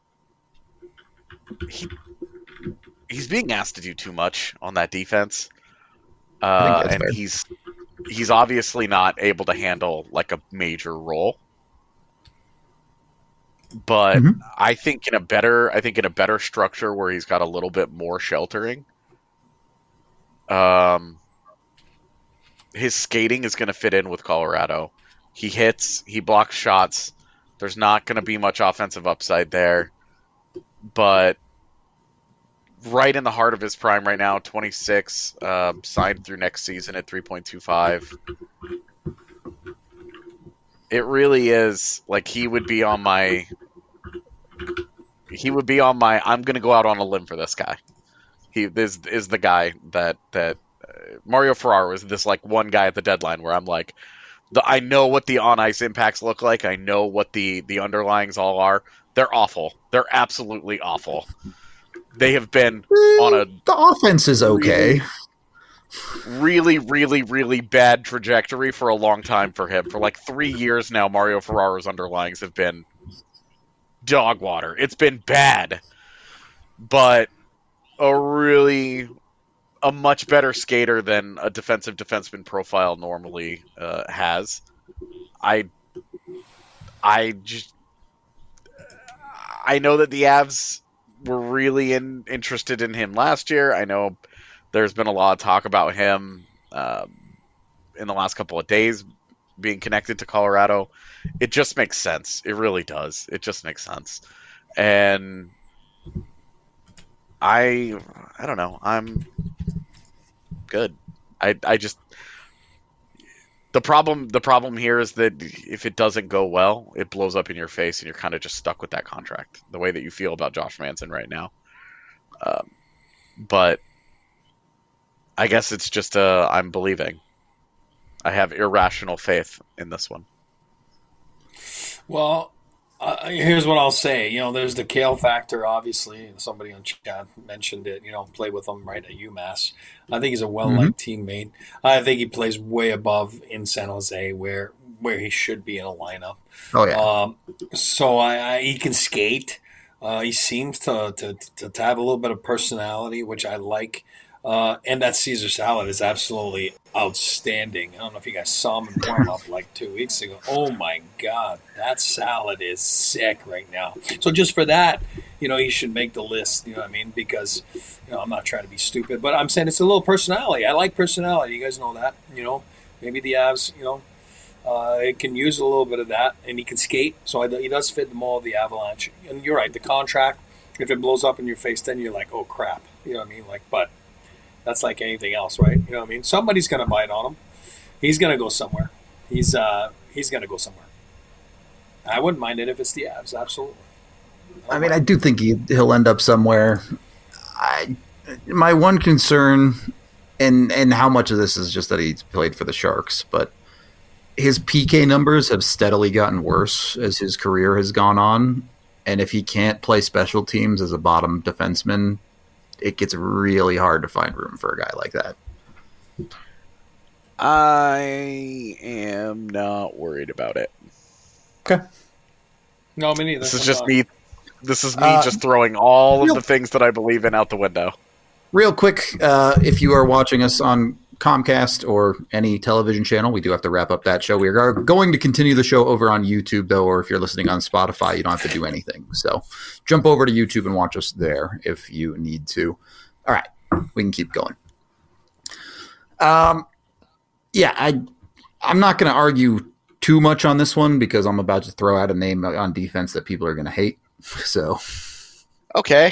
He's being asked to do too much on that defense, and fair. He's obviously not able to handle like a major role. But mm-hmm. I think in a better structure where he's got a little bit more sheltering. His skating is going to fit in with Colorado. He hits, he blocks shots. There's not going to be much offensive upside there. But right in the heart of his prime right now, 26, signed through next season at 3.25. It really is like he would be on my I'm going to go out on a limb for this guy. He is the guy that Mario Ferraro is this like one guy at the deadline where I'm like, I know what the on ice impacts look like. I know what the underlyings all are. They're awful. They're absolutely awful. They have been on the offense is okay. Really, really, really bad trajectory for a long time for him. For like 3 years now, Mario Ferraro's underlyings have been dog water. It's been bad. But a much better skater than a defensive defenseman profile normally has. I know that the Avs were really interested in him last year. I know there's been a lot of talk about him in the last couple of days being connected to Colorado. It just makes sense. It really does. It just makes sense. And I don't know. I'm good. I just the problem here is that if it doesn't go well, it blows up in your face, and you're kind of just stuck with that contract. The way that you feel about Josh Manson right now, but I guess it's just I'm believing. I have irrational faith in this one. Well, here's what I'll say. There's the Kale factor, obviously. Somebody on chat mentioned it. Play with him right at UMass. I think he's a well-liked teammate. I think he plays way above in San Jose where he should be in a lineup. Oh, yeah. So he can skate. He seems to have a little bit of personality, which I like. And that Caesar salad is absolutely outstanding. I don't know if you guys saw him in warm-up like 2 weeks ago. Oh, my God. That salad is sick right now. So just for that, he should make the list, you know what I mean? Because, I'm not trying to be stupid, but I'm saying it's a little personality. I like personality. You guys know that, Maybe the Avs, it can use a little bit of that, and he can skate. So he does fit the mold of the Avalanche. And you're right, the contract, if it blows up in your face, then you're like, oh, crap. You know what I mean? But that's like anything else, right? You know what I mean? Somebody's going to bite on him. He's going to go somewhere. He's going to go somewhere. I wouldn't mind it if it's the Avs, absolutely. I do think he'll end up somewhere. my one concern, and how much of this is just that he's played for the Sharks, but his PK numbers have steadily gotten worse as his career has gone on. And if he can't play special teams as a bottom defenseman, it gets really hard to find room for a guy like that. I am not worried about it. Okay. No, me neither. This is just me just throwing all of the things that I believe in out the window. Real quick, if you are watching us on Comcast or any television channel, we do have to wrap up that show. We are going to continue the show over on YouTube, though, or if you're listening on Spotify, you don't have to do anything. So jump over to YouTube and watch us there if you need to. All right, we can keep going. Yeah, I'm not going to argue too much on this one because I'm about to throw out a name on defense that people are going to hate. So, okay.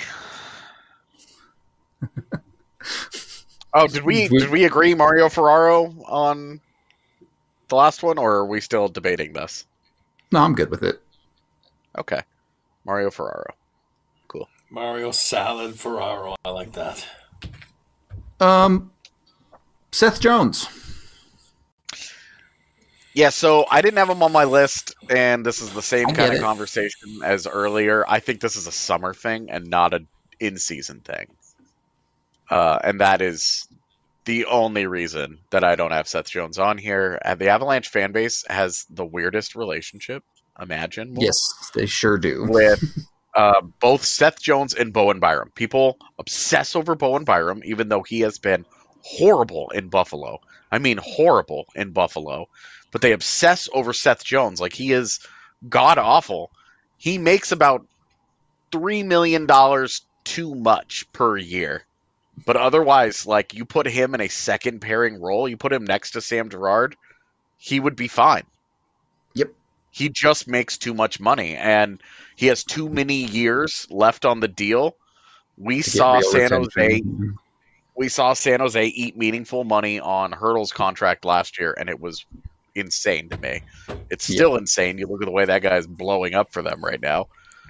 Oh, did we agree Mario Ferraro on the last one, or are we still debating this? No, I'm good with it. Okay. Mario Ferraro. Cool. Mario Salad Ferraro. I like that. Seth Jones. Yeah, so I didn't have him on my list, and this is the same kind of conversation as earlier. I think this is a summer thing and not an in-season thing. And that is the only reason that I don't have Seth Jones on here. The Avalanche fan base has the weirdest relationship imaginable. Yes, they sure do. With both Seth Jones and Bowen Byram. People obsess over Bowen Byram, even though he has been horrible in Buffalo. I mean horrible in Buffalo. But they obsess over Seth Jones. Like, he is god-awful. He makes about $3 million too much per year. But otherwise, like, you put him in a second pairing role, you put him next to Sam Girard, he would be fine. Yep. He just makes too much money, and he has too many years left on the deal. We saw San Jose eat meaningful money on Hertl's contract last year, and it was insane to me. It's still insane. You look at the way that guy is blowing up for them right now.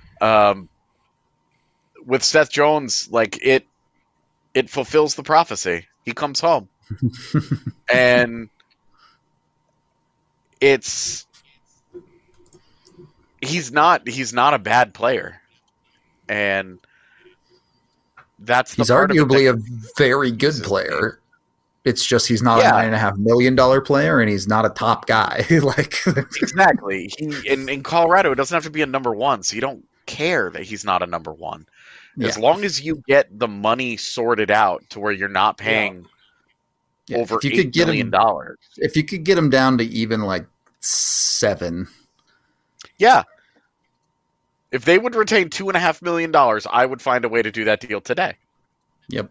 With Seth Jones, like, it fulfills the prophecy. He comes home. And he's not a bad player. And that's the he's arguably a very good player. It's just he's not a $9.5 million player, and he's not a top guy. Exactly. In Colorado, it doesn't have to be a number one, so you don't care that he's not a number one. As long as you get the money sorted out to where you're not paying over $8 million. If you could get him down to even like 7. Yeah. If they would retain $2.5 million, I would find a way to do that deal today. Yep.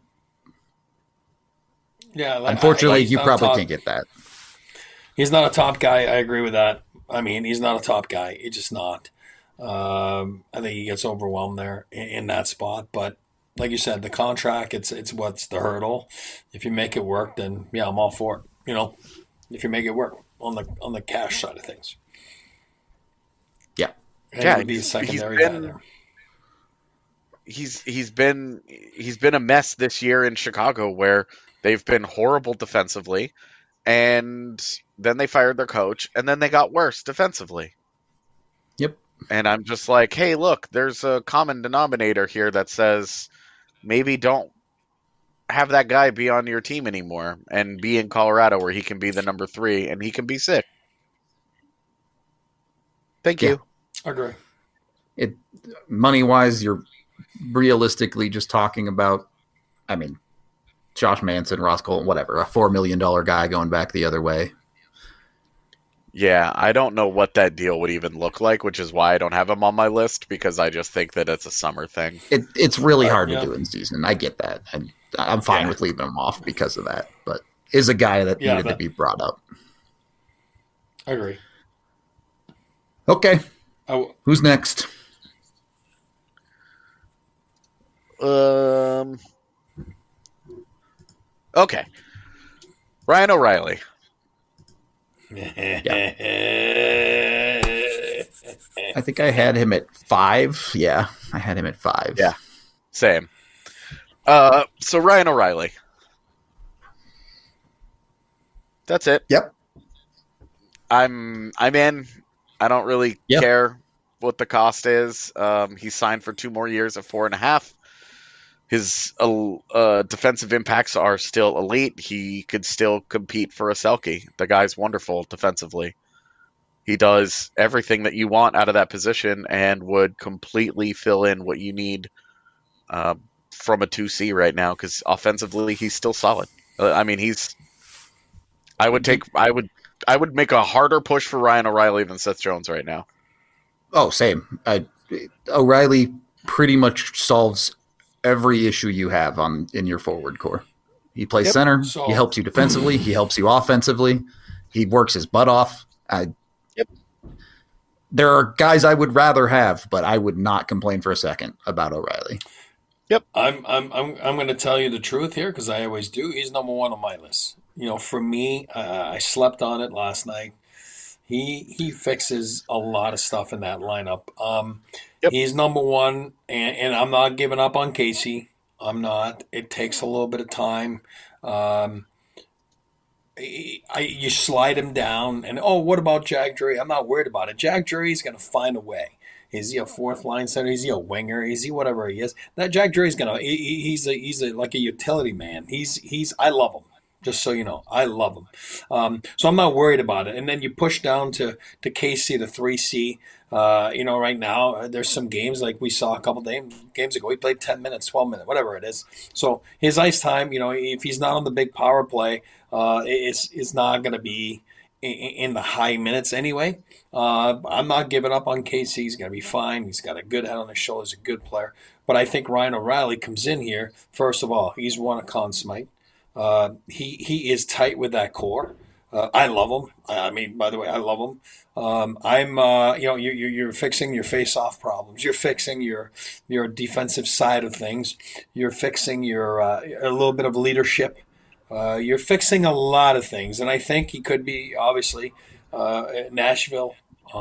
Yeah. Unfortunately, you probably can't get that. He's not a top guy. I agree with that. I mean, he's not a top guy. He's just not. I think he gets overwhelmed there in that spot. But like you said, the contract, it's what's the hurdle. If you make it work, then yeah, I'm all for it. You know, if you make it work on the cash side of things. Yeah. And he'd be a secondary guy there. He's been a mess this year in Chicago, where they've been horrible defensively, and then they fired their coach, and then they got worse defensively. Yep. And I'm just like, hey, look, there's a common denominator here that says maybe don't have that guy be on your team anymore and be in Colorado where he can be the number 3 and he can be sick. Thank you. I agree. Money-wise, you're realistically just talking about, I mean, Josh Manson, Ross Colton, whatever, a $4 million guy going back the other way. Yeah, I don't know what that deal would even look like, which is why I don't have him on my list, because I just think that it's a summer thing. It's really hard to do in season. I get that. I'm fine with leaving him off because of that, but is a guy that needed to be brought up. I agree. Okay. Who's next? Okay. Ryan O'Reilly. Yeah. I think I had him at 5. Yeah, I had him at 5. Yeah, same. So Ryan O'Reilly. That's it. Yep. I'm in. I don't really care what the cost is. He's signed for 2 more years at 4.5. His defensive impacts are still elite. He could still compete for a Selke. The guy's wonderful defensively. He does everything that you want out of that position and would completely fill in what you need from a 2C right now, because offensively he's still solid. I would make a harder push for Ryan O'Reilly than Seth Jones right now. Oh, same. O'Reilly pretty much solves every issue you have in your forward core. He plays center. He helps you defensively. He helps you offensively. He works his butt off. There are guys I would rather have, but I would not complain for a second about O'Reilly. Yep, I'm going to tell you the truth here, because I always do. He's number 1 on my list. For me, I slept on it last night. He fixes a lot of stuff in that lineup. He's number 1, and I'm not giving up on Casey. I'm not. It takes a little bit of time. You slide him down, and what about Jack Drury? I'm not worried about it. Jack Drury's going to find a way. Is he a 4th line center? Is he a winger? Is he whatever he is? That Jack Drury's going to. He's like a utility man. I love him. Just so you know, I love him. So I'm not worried about it. And then you push down to KC, the 3C. Right now there's some games like we saw a couple games ago. He played 10 minutes, 12 minutes, whatever it is. So his ice time, if he's not on the big power play, it's not going to be in the high minutes anyway. I'm not giving up on KC. He's going to be fine. He's got a good head on his shoulders, a good player. But I think Ryan O'Reilly comes in here. First of all, he's won a Conn Smythe. He is tight with that core. I love him. By the way, I love him. You're fixing your face-off problems. You're fixing your defensive side of things. You're fixing your a little bit of leadership. You're fixing a lot of things, and I think he could be obviously Nashville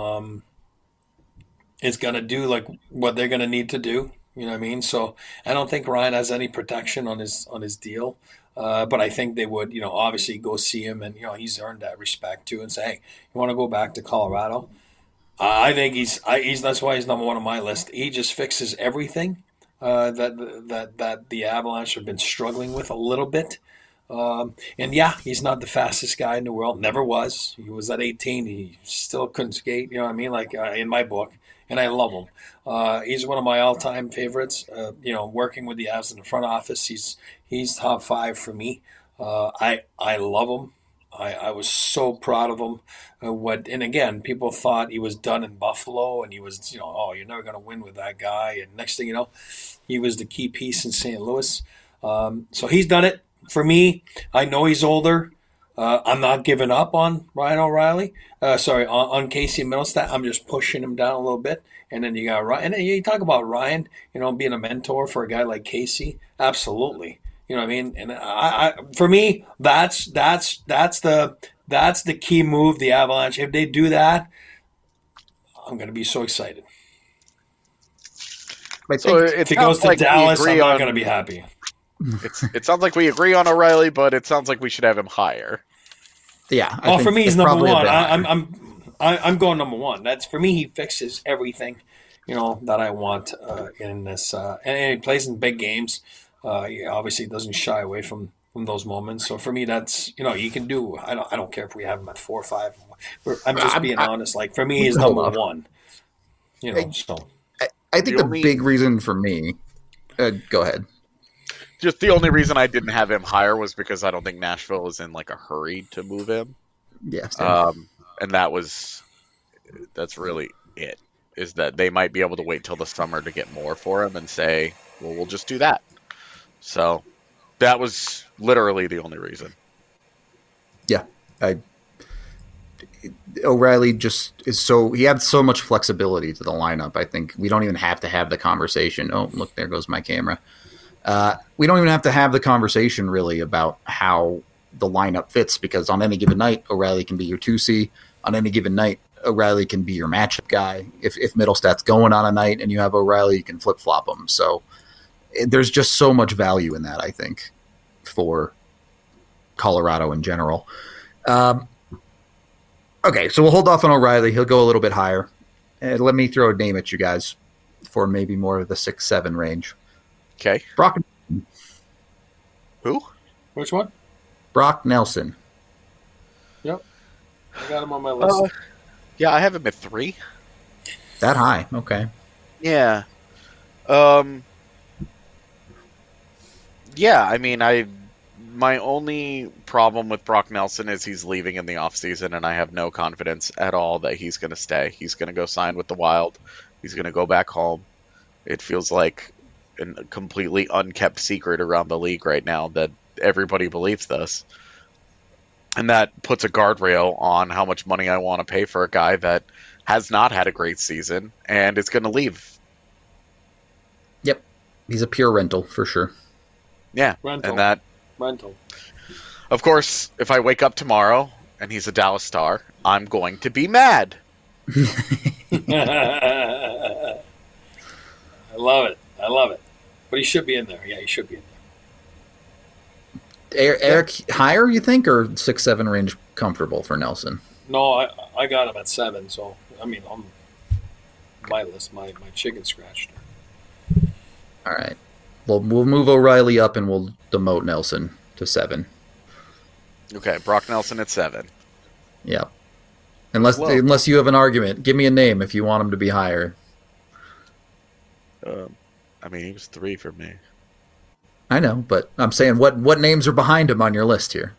is going to do like what they're going to need to do. You know what I mean? So I don't think Ryan has any protection on his deal. But I think they would, obviously go see him, and he's earned that respect too, and say, hey, you want to go back to Colorado? I think he's that's why he's number 1 on my list. He just fixes everything that the Avalanche have been struggling with a little bit. He's not the fastest guy in the world. Never was. He was at 18. He still couldn't skate. You know what I mean? Like in my book. And I love him. He's one of my all-time favorites. Working with the Avs in the front office, he's top 5 for me. I love him. I was so proud of him. And again, people thought he was done in Buffalo, and he was, you're never going to win with that guy. And next thing you know, he was the key piece in St. Louis. So he's done it for me. I know he's older. I'm not giving up on Ryan O'Reilly. On Casey Mittelstadt. I'm just pushing him down a little bit. And then you got Ryan. And then you talk about Ryan, being a mentor for a guy like Casey. Absolutely. You know what I mean? And I for me, that's the key move. The Avalanche. If they do that, I'm going to be so excited. If he goes to Dallas, I'm not going to be happy. It sounds like we agree on O'Reilly, but it sounds like we should have him higher. Yeah. For me, he's number 1. I'm going number 1. That's for me. He fixes everything, that I want in this. And he plays in big games. He obviously doesn't shy away from those moments. So for me, that's you can do. I don't care if we have him at 4 or 5. I'm just being honest. Like for me, he's number 1. So I think the big reason for me. Go ahead. Just the only reason I didn't have him higher was because I don't think Nashville is in like a hurry to move him. Yeah. And that's really it, is that they might be able to wait till the summer to get more for him and say, well, we'll just do that. So that was literally the only reason. Yeah. O'Reilly just is he had so much flexibility to the lineup. I think we don't even have to have the conversation. Oh, look, there goes my camera. We don't even have to have the conversation really about how the lineup fits, because on any given night, O'Reilly can be your 2C. On any given night, O'Reilly can be your matchup guy. If Mittelstadt's going on a night and you have O'Reilly, you can flip-flop him. So there's just so much value in that, I think, for Colorado in general. Okay, so we'll hold off on O'Reilly. He'll go a little bit higher. Let me throw a name at you guys for maybe more of the 6-7 range. Okay. Brock. Who? Which one? Brock Nelson. Yep. I got him on my list. Yeah, I have him at 3. That high? Okay. Yeah. Yeah, I mean, my only problem with Brock Nelson is he's leaving in the offseason, and I have no confidence at all that he's going to stay. He's going to go sign with the Wild. He's going to go back home. It feels like a completely unkept secret around the league right now that everybody believes this. And that puts a guardrail on how much money I want to pay for a guy that has not had a great season and is going to leave. Yep. He's a pure rental for sure. Yeah. Rental. And that... Rental. Of course, if I wake up tomorrow and he's a Dallas Star, I'm going to be mad. I love it. But he should be in there. Yeah, he should be in there. Eric, higher, you think, or 6-7 range comfortable for Nelson? No, I got him at 7, so, I mean, on my list, my chicken scratched. All right. We'll move O'Reilly up and we'll demote Nelson to 7. Okay, Brock Nelson at 7. Yeah. Unless you have an argument. Give me a name if you want him to be higher. I mean, he was 3 for me. I know, but I'm saying what names are behind him on your list here?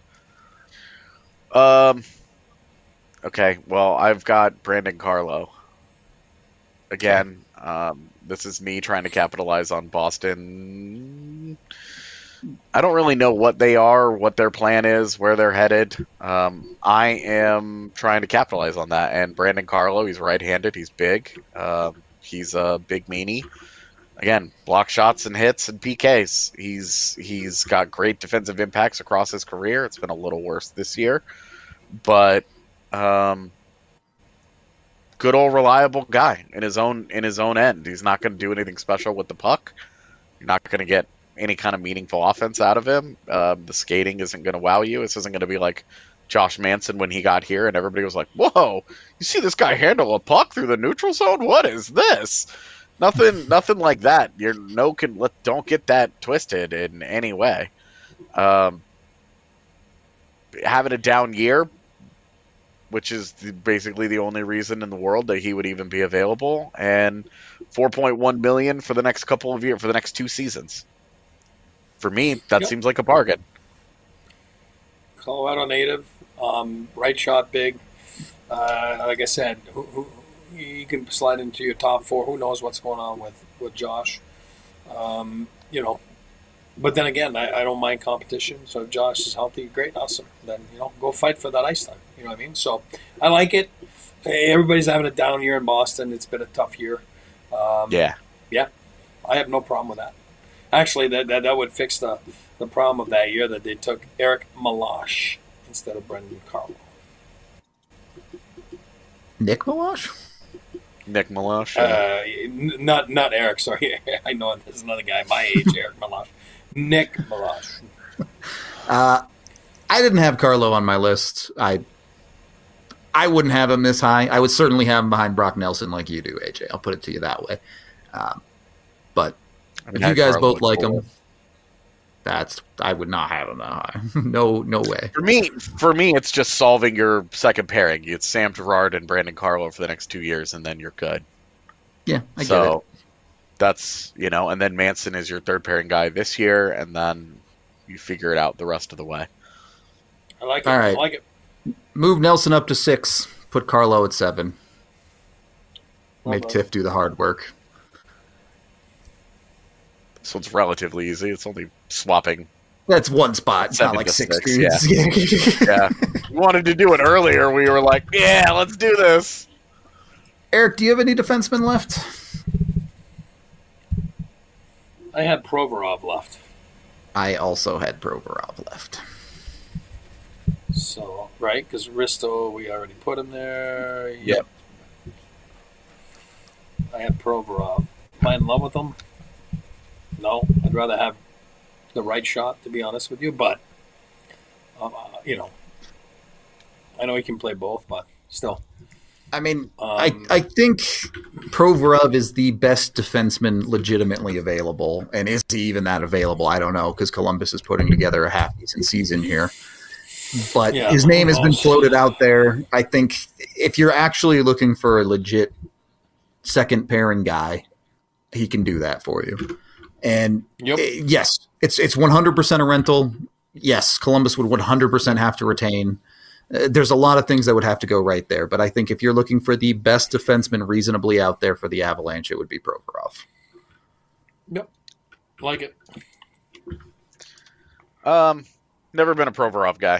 Okay, well, I've got Brandon Carlo. Again, this is me trying to capitalize on Boston. I don't really know what they are, what their plan is, where they're headed. I am trying to capitalize on that. And Brandon Carlo, he's right-handed. He's big. He's a big meanie. Again, block shots and hits and PKs. He's got great defensive impacts across his career. It's been a little worse this year. But good old reliable guy in his own end. He's not going to do anything special with the puck. You're not going to get any kind of meaningful offense out of him. The skating isn't going to wow you. This isn't going to be like Josh Manson when he got here and everybody was like, whoa, you see this guy handle a puck through the neutral zone? What is this? Nothing like that. Don't get that twisted in any way. Having a down year, which is basically the only reason in the world that he would even be available, and $4.1 million for the next couple of years, for the next 2 seasons. For me, that seems like a bargain. Colorado native, right shot big. Like I said, you can slide into your top 4. Who knows what's going on with Josh? But then again, I don't mind competition. So if Josh is healthy, great, awesome. Then go fight for that ice time. You know what I mean? So I like it. Everybody's having a down year in Boston. It's been a tough year. Yeah. I have no problem with that. Actually, that would fix the problem of that year that they took Eric Meloche instead of Brendan Carlo. Nick Meloche? Nick Meloche. Not Eric. Sorry, I know there's another guy my age, Eric Meloche. Nick Meloche. I didn't have Carlo on my list. I wouldn't have him this high. I would certainly have him behind Brock Nelson, like you do, AJ. I'll put it to you that way. But if you guys both like him, I would not have him that high. No way. For me, it's just solving your second pairing. It's Sam Girard and Brandon Carlo for the next 2 years, and then you're good. Yeah, I get it. That's, and then Manson is your third pairing guy this year, and then you figure it out the rest of the way. I like it. All right. I like it. Move Nelson up to 6. Put Carlo at 7. Make Tiff do the hard work. So it's relatively easy. It's only swapping. That's one spot. It's not like 6 dudes. Yeah. We wanted to do it earlier. We were like, yeah, let's do this. Eric, do you have any defensemen left? I had Provorov left. I also had Provorov left. So, right? Because Risto, we already put him there. Yep. I had Provorov. Am I in love with him? No, I'd rather have the right shot, to be honest with you. But, you know, I know he can play both, but still. I mean, I think Provorov is the best defenseman legitimately available. And is he even that available? I don't know, because Columbus is putting together a half-decent season here. But his name has been floated out there. I think if you're actually looking for a legit second-pairing guy, he can do that for you. And yes, it's 100% a rental. Yes, Columbus would 100% have to retain. There's a lot of things that would have to go right there, but I think if you're looking for the best defenseman reasonably out there for the Avalanche, it would be Provorov. Yep, like it. Never been a Provorov guy.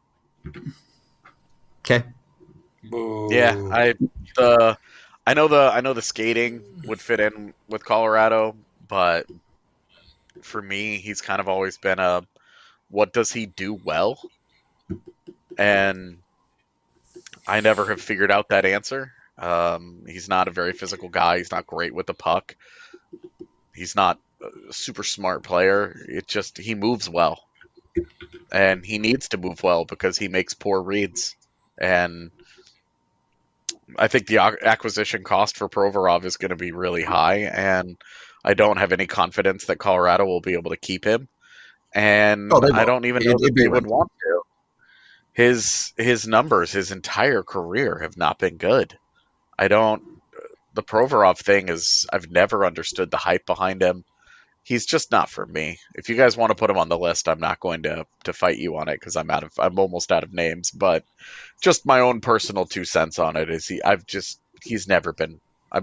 Okay. Boo. Yeah, I know the skating would fit in with Colorado, but for me, he's kind of always been a what does he do well? And I never have figured out that answer. He's not a very physical guy. He's not great with the puck. He's not a super smart player. He moves well. And he needs to move well because he makes poor reads. And I think the acquisition cost for Provorov is going to be really high. And I don't have any confidence that Colorado will be able to keep him. And I don't even know that they would want to. His numbers, his entire career have not been good. The Provorov thing is, I've never understood the hype behind him. He's just not for me. If you guys want to put him on the list, I'm not going to fight you on it because I'm almost out of names. But just my own personal 2 cents on it is I've never been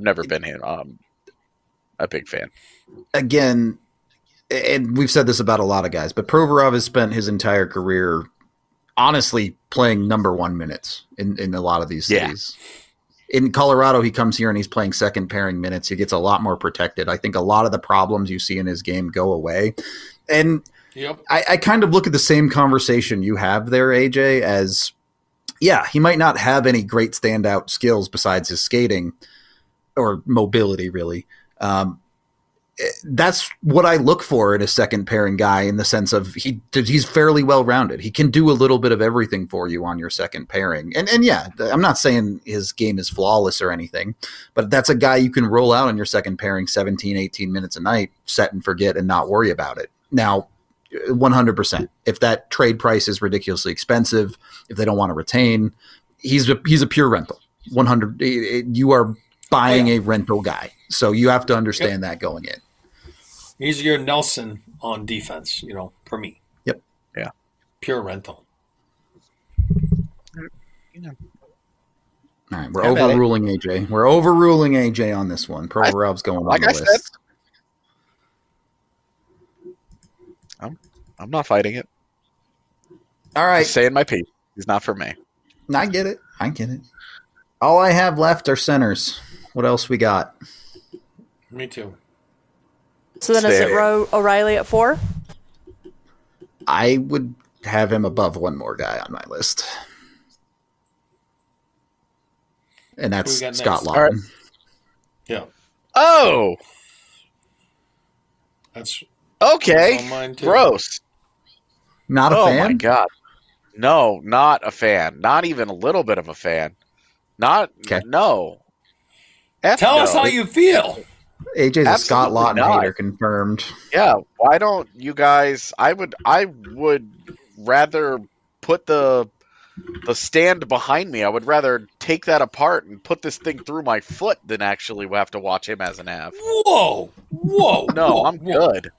a big fan. Again, and we've said this about a lot of guys, but Provorov has spent his entire career honestly playing number 1 minutes in a lot of these cities. In Colorado, he comes here and he's playing second pairing minutes. He gets a lot more protected. I think a lot of the problems you see in his game go away. And I kind of look at the same conversation you have there, AJ, as, he might not have any great standout skills besides his skating or mobility, really. That's what I look for in a second pairing guy, in the sense of he's fairly well rounded. He can do a little bit of everything for you on your second pairing. And I'm not saying his game is flawless or anything, but that's a guy you can roll out on your second pairing 17, 18 minutes a night, set and forget, and not worry about it. Now, 100%. If that trade price is ridiculously expensive, if they don't want to retain, he's a pure rental. 100. You are buying a rental guy. So you have to understand that going in. He's your Nelson on defense, for me. Yep. Yeah. Pure rental. All right, we're overruling AJ. We're overruling AJ on this one. Provorov's going on the list. I'm not fighting it. All right. Just saying my piece. He's not for me. I get it. All I have left are centers. What else we got? Me too. So then is it O'Reilly at 4? I would have him above one more guy on my list. And that's Scott Laughton. Right. Yeah. Oh! That's okay. Gross. Not a fan? Oh my God. No, not a fan. Not even a little bit of a fan. No. Tell us how you feel. AJ's a Scott Laughton hater, confirmed. Yeah, why don't you guys? I would rather put the stand behind me. I would rather take that apart and put this thing through my foot than actually have to watch him as an Av. Whoa! No, I'm good.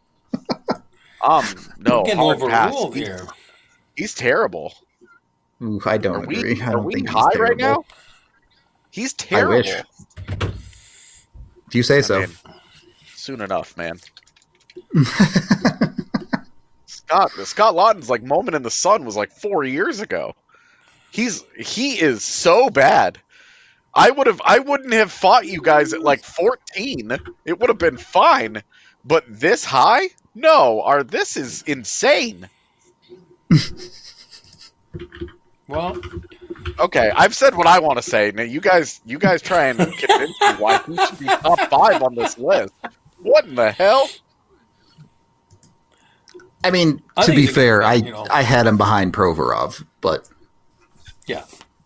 No, getting overruled here. He's terrible. Ooh, I don't agree. Are we high right now? He's terrible. I wish. If you say so. Soon enough, man. Scott Laughton's moment in the sun was 4 years ago. He is so bad. I wouldn't have fought you guys at 14. It would have been fine. But this high? No, this is insane. Well, okay, I've said what I want to say. Now you guys try and convince me why he should be top 5 on this list. What in the hell? I mean, to be fair, I had him behind Provorov, but yeah,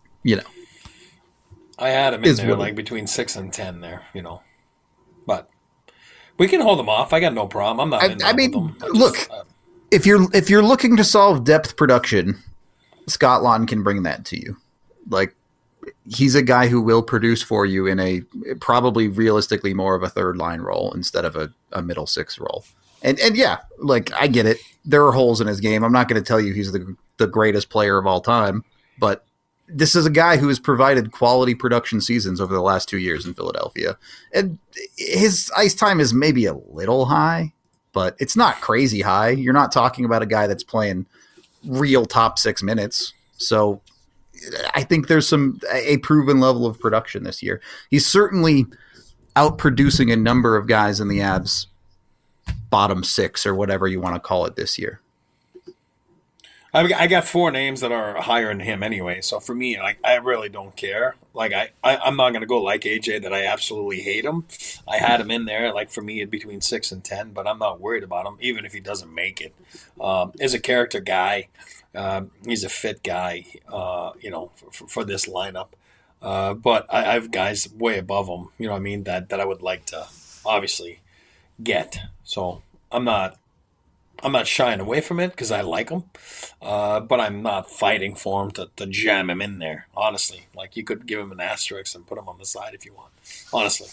I had him in there like between 6 and 10 there, but we can hold them off. I got no problem. I'm not. I mean, with them. Look, if you're looking to solve depth production, Scott Laughton can bring that to you. Like, he's a guy who will produce for you in a probably realistically more of a third line role instead of a middle six role. And yeah, like, I get it. There are holes in his game. I'm not going to tell you he's the greatest player of all time, but this is a guy who has provided quality production seasons over the last 2 years in Philadelphia. And his ice time is maybe a little high, but it's not crazy high. You're not talking about a guy that's playing real top 6 minutes. So I think there's a proven level of production this year. He's certainly outproducing a number of guys in the Avs bottom 6 or whatever you want to call it this year. I got 4 names that are higher than him anyway. So for me, like, I really don't care. Like, I'm not going to go like AJ that I absolutely hate him. I had him in there. Like, for me, between 6 and 10, but I'm not worried about him, even if he doesn't make it. As a character guy, he's a fit guy, for this lineup. But I have guys way above him, you know what I mean, that I would like to obviously get. So I'm not shying away from it because I like him, but I'm not fighting for him to jam him in there, honestly. Like, you could give him an asterisk and put him on the side if you want, honestly.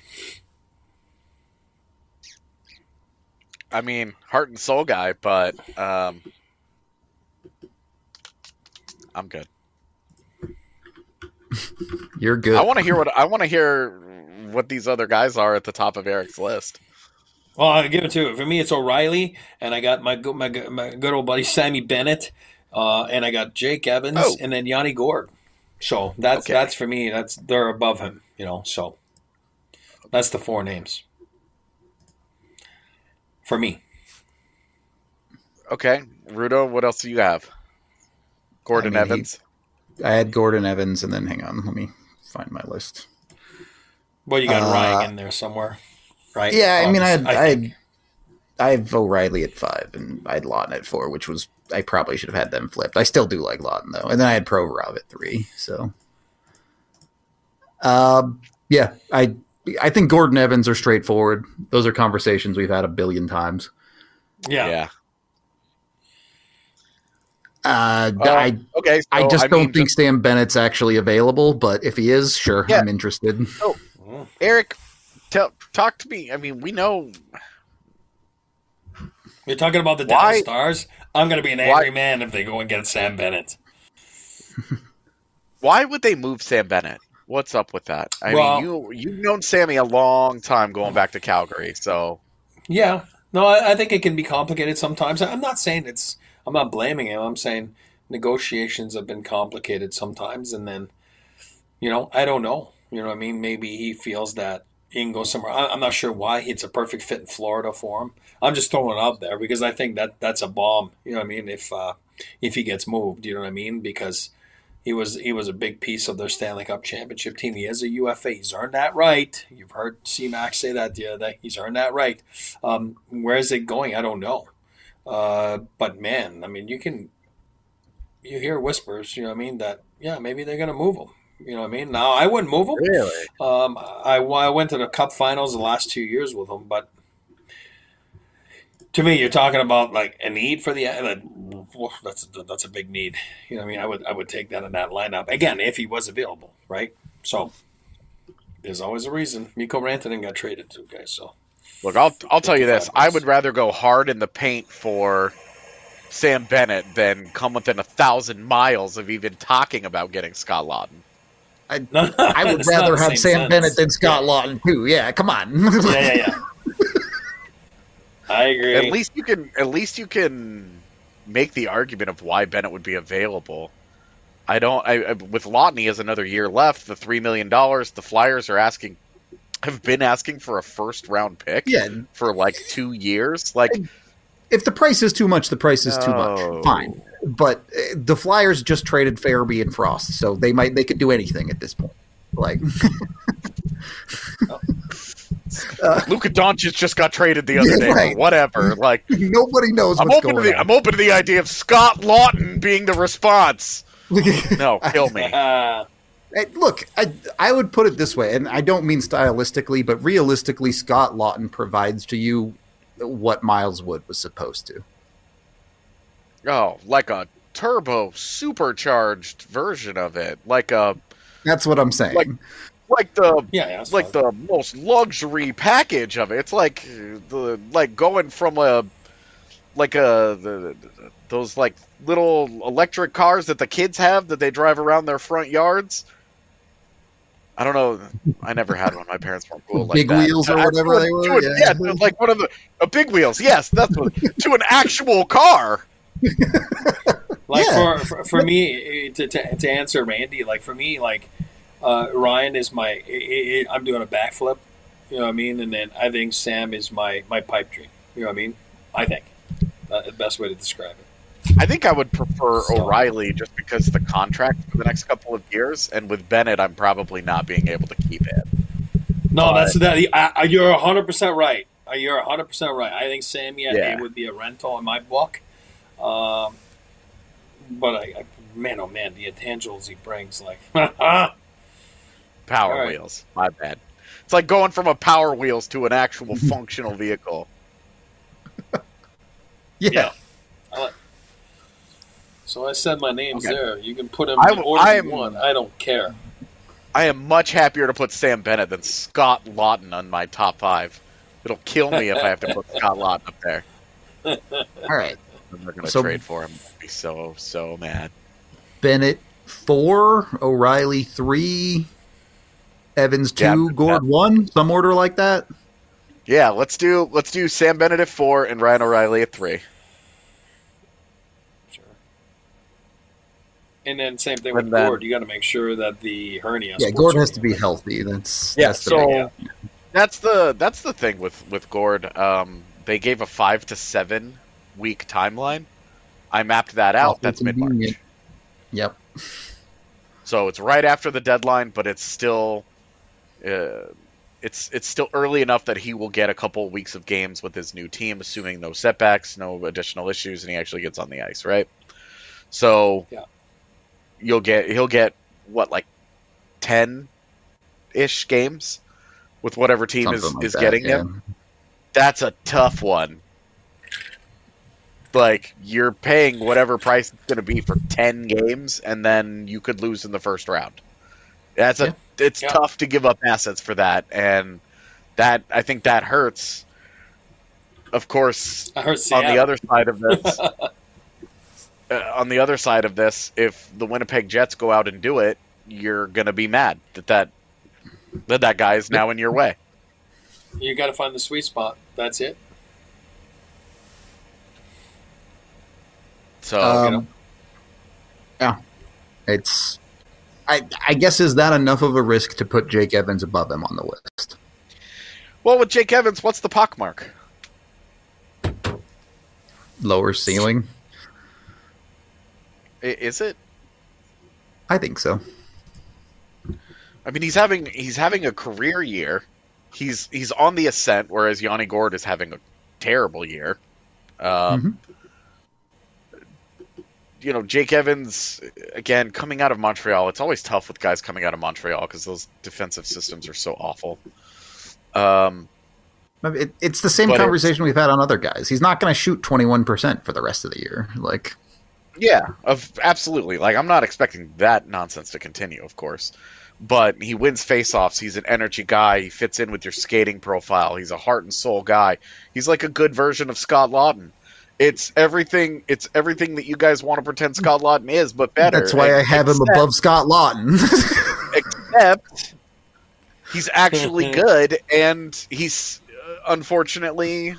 I mean, heart and soul guy, but I'm good. You're good. I want to hear what these other guys are at the top of Eric's list. Well, I'll give it to you. For me, it's O'Reilly, and I got my good old buddy Sammy Bennett, and I got Jake Evans, and then Yanni Gourde. So that's for me. They're above him, So that's the 4 names for me. Okay, Rudo, what else do you have? Gordon Evans. I had Gordon Evans, and then hang on, let me find my list. Well, you got Ryan in there somewhere. Right. Yeah, I mean, I have O'Reilly at 5, and I had Laughton at 4, which was, I probably should have had them flipped. I still do like Laughton, though. And then I had Provorov at 3, so. Yeah, I think Gordon Evans are straightforward. Those are conversations we've had a billion times. Yeah. Okay. So, I don't think Sam Bennett's actually available, but if he is, sure, I'm interested. Oh, Eric, talk to me. I mean, we know. You're talking about the Dallas Stars? I'm going to be an angry man if they go and get Sam Bennett. Why would they move Sam Bennett? What's up with that? I mean, you've known Sammy a long time going back to Calgary, so. Yeah. No, I think it can be complicated sometimes. I'm not saying I'm not blaming him. I'm saying negotiations have been complicated sometimes, and then, I don't know. You know what I mean? Maybe he feels that he can go somewhere. I'm not sure why. It's a perfect fit in Florida for him. I'm just throwing it out there because I think that's a bomb. You know what I mean? If he gets moved, you know what I mean? Because he was a big piece of their Stanley Cup championship team. He is a UFA. He's earned that right. You've heard C-Mac say that the other day. He's earned that right. Where is it going? I don't know. But man, I mean, you hear whispers, you know what I mean, that, yeah, maybe they're going to move him. You know what I mean? Now, I wouldn't move him. Really? I went to the Cup Finals the last 2 years with him, but to me, you're talking about like a need for that's a big need. You know what I mean? I would take that in that lineup again if he was available, right? So there's always a reason. Mikko Rantanen got traded too, guys. So look, I'll tell you this: I would rather go hard in the paint for Sam Bennett than come within 1,000 miles of even talking about getting Scott Laughton. I would rather have Sam Bennett than Scott Laughton too. Yeah, come on. Yeah. I agree. At least you can make the argument of why Bennett would be available. With Laughton, he has another year left. The $3 million. The Flyers have been asking for a first round pick. For like 2 years. Like, if the price is too much, the price is too much. Fine. But the Flyers just traded Farabee and Frost, so they could do anything at this point. Like, happens. Luka Doncic just got traded the other day. Right. Whatever. Like nobody knows what's going on. I'm open to the idea of Scott Lawton being the response. No, kill me. Look, I would put it this way, and I don't mean stylistically, but realistically, Scott Lawton provides to you what Miles Wood was supposed to. Oh, like a turbo supercharged version of it. That's what I'm saying. Like the most luxury package of it. It's like going from those like little electric cars that the kids have that they drive around their front yards. I don't know. I never had one. My parents weren't cool like big that. Wheels or whatever they were. Yeah, like one of the big wheels. Yes, that's what, to an actual car. Like for me to answer Randy, like for me, like Ryan is I'm doing a backflip, you know what I mean, and then I think Sam is my pipe dream, you know what I mean. I think the best way to describe it. I think I would prefer O'Reilly just because of the contract for the next couple of years, and with Bennett, I'm probably not being able to keep it. No, that's that. You're 100% right. You're 100% right. I think Sammy would be a rental in my book. But man, oh man, the intangibles he brings, like Power wheels. My bad. It's like going from a Power Wheels to an actual functional vehicle. Yeah. So I said my name's there. You can put him in order you want. I don't care. I am much happier to put Sam Bennett than Scott Lawton on my top 5. It'll kill me if I have to put Scott Lawton up there. All right. We're going to trade for him. I'd be so mad. Bennett 4, O'Reilly 3, Evans 2, Gord 1, some order like that. Yeah, let's do Sam Bennett at 4 and Ryan O'Reilly at 3. Sure. And then same thing with Gord. You got to make sure that the hernia. Yeah, Gord has to be healthy. That's the thing with Gord. They gave a 5 to 7 week timeline. I mapped that out. That's mid-March. Yep. So it's right after the deadline, but it's still it's still early enough that he will get a couple weeks of games with his new team, assuming no setbacks, no additional issues, and he actually gets on the ice, right? So he'll get what, like 10-ish games with whatever team is getting him. That's a tough one. Like, you're paying whatever price it's going to be for 10 games, and then you could lose in the first round. It's tough to give up assets for that, and I think that hurts. Of course, on the other side of this, if the Winnipeg Jets go out and do it, you're going to be mad that guy is now in your way. You got to find the sweet spot. That's it. So, it's. I guess, is that enough of a risk to put Jake Evans above him on the list? Well, with Jake Evans, what's the puck mark? Lower ceiling. Is it? I think so. I mean, he's having a career year. He's on the ascent, whereas Yanni Gourde is having a terrible year. You know, Jake Evans, again, coming out of Montreal, it's always tough with guys coming out of Montreal because those defensive systems are so awful. It's the same conversation we've had on other guys. He's not going to shoot 21% for the rest of the year. Absolutely. Like, I'm not expecting that nonsense to continue, of course. But he wins faceoffs. He's an energy guy. He fits in with your skating profile. He's a heart and soul guy. He's like a good version of Scott Lawton. It's everything that you guys want to pretend Scott Lawton is, but better. That's why I have him above Scott Lawton. Except he's actually good, and he's unfortunately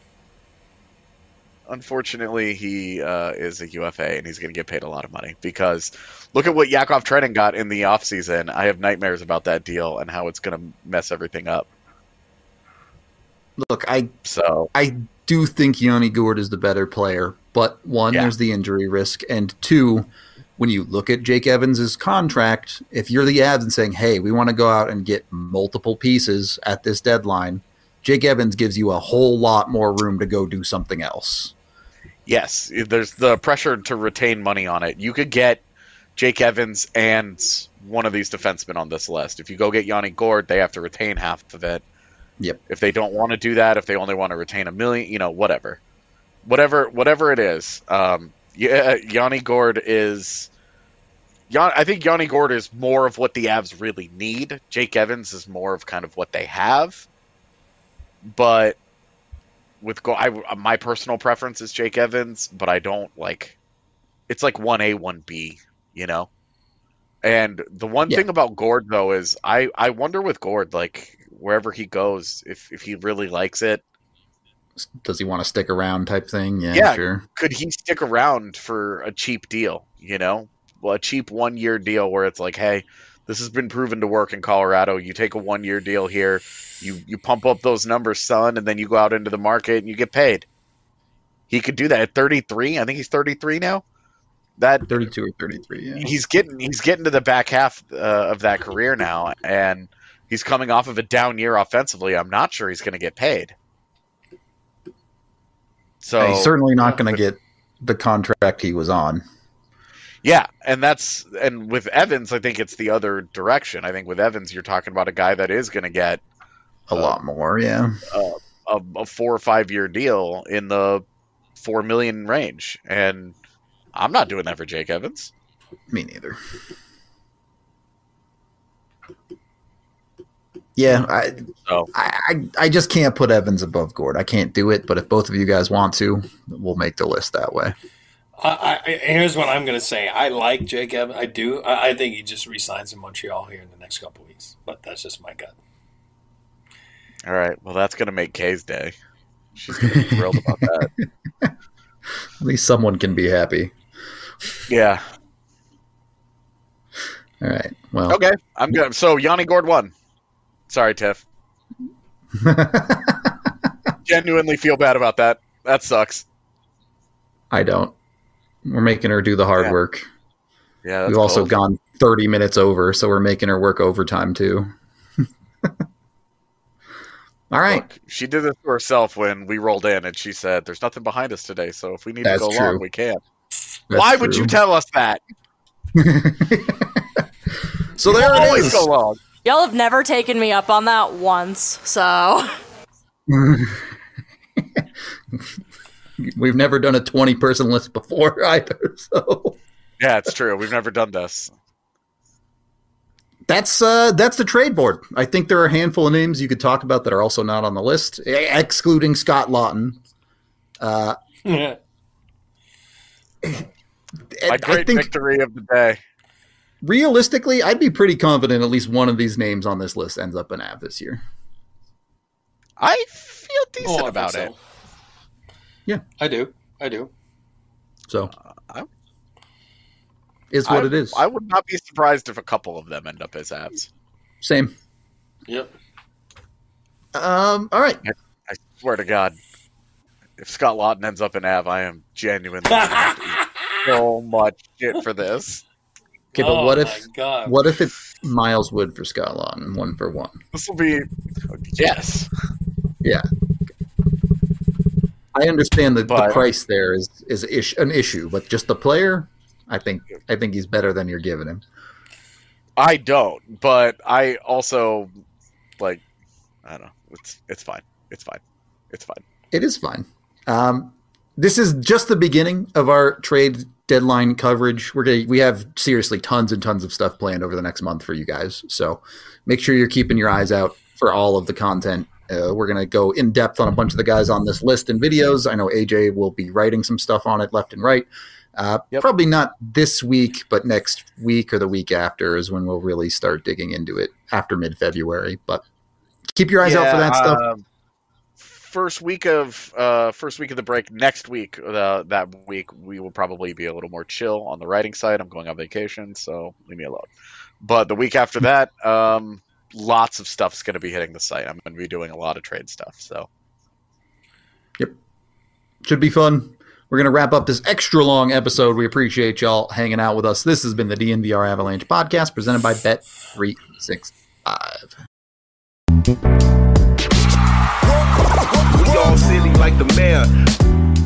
he is a UFA, and he's going to get paid a lot of money because look at what Yakov Trenin got in the offseason. I have nightmares about that deal and how it's going to mess everything up. Look, I do think Yanni Gourde is the better player, but one, there's the injury risk, and two, when you look at Jake Evans' contract, if you're the Avs and saying, hey, we want to go out and get multiple pieces at this deadline, Jake Evans gives you a whole lot more room to go do something else. Yes, there's the pressure to retain money on it. You could get Jake Evans and one of these defensemen on this list. If you go get Yanni Gourde, they have to retain half of it. Yep. If they don't want to do that, if they only want to retain $1 million, whatever it is. Yanni Gourde is. I think Yanni Gourde is more of what the Avs really need. Jake Evans is more of kind of what they have. But with my personal preference is Jake Evans, but I don't like. It's like 1A, 1B, And the one thing about Gourde though is I wonder with Gourde, like wherever he goes, if he really likes it. Does he want to stick around type thing? Yeah, sure. Could he stick around for a cheap deal, Well, a cheap 1-year deal where it's like, hey, this has been proven to work in Colorado. You take a 1-year deal here, you pump up those numbers, son, and then you go out into the market and you get paid. He could do that at 33. I think he's 33 now. That 32 or 33, yeah. He's getting to the back half of that career now, and he's coming off of a down year offensively. I'm not sure he's going to get paid. So he's certainly not going to get the contract he was on. Yeah, and with Evans, I think it's the other direction. I think with Evans, you're talking about a guy that is going to get a lot more, yeah. A 4 or 5 year deal in the $4 million range, and I'm not doing that for Jake Evans. Me neither. Yeah, I just can't put Evans above Gourde. I can't do it, but if both of you guys want to, we'll make the list that way. Here's what I'm going to say. I like Jake Evans. I do. I think he just re-signs in Montreal here in the next couple of weeks, but that's just my gut. All right. Well, that's going to make Kay's day. She's going to be thrilled about that. At least someone can be happy. Yeah. All right. Well. Okay. I'm good. So Yanni Gourde won. Sorry, Tiff. Genuinely feel bad about that. That sucks. I don't. We're making her do the hard work. Yeah. We've also gone 30 minutes over, so we're making her work overtime too. All right. Look, she did this to herself when we rolled in, and she said, "There's nothing behind us today, so if we need to go long, we can." Why would you tell us that? So there it is. Go long. Y'all have never taken me up on that once, so. We've never done a 20-person list before either, so. Yeah, it's true. We've never done this. That's the trade board. I think there are a handful of names you could talk about that are also not on the list, excluding Scott Laughton. My great victory of the day. Realistically, I'd be pretty confident at least one of these names on this list ends up an Av this year. I feel decent about it. Yeah, I do. So, is what it is. I would not be surprised if a couple of them end up as Avs. Same. Yep. All right. I swear to God, if Scott Laughton ends up in Av, I am genuinely going to have to eat so much shit for this. Okay, but what if it's Miles Wood for Scott Laughton, 1-for-1? This will be yes. Yeah. I understand that the price there is an issue, but just the player, I think he's better than you're giving him. I don't, but I also I don't know. It's fine. It's fine. It is fine. This is just the beginning of our trade deadline coverage. We have seriously tons and tons of stuff planned over the next month for you guys. So make sure you're keeping your eyes out for all of the content. We're going to go in depth on a bunch of the guys on this list and videos. I know AJ will be writing some stuff on it left and right. Probably not this week, but next week or the week after is when we'll really start digging into it after mid-February. But keep your eyes out for that stuff. First week of the break next week. That week we will probably be a little more chill on the writing side. I'm going on vacation, so leave me alone. But the week after that, lots of stuff's going to be hitting the site. I'm going to be doing a lot of trade stuff. So, yep, should be fun. we're going to wrap up this extra long episode. We appreciate y'all hanging out with us. This has been the DNVR Avalanche podcast presented by Bet365. We all silly like the mayor.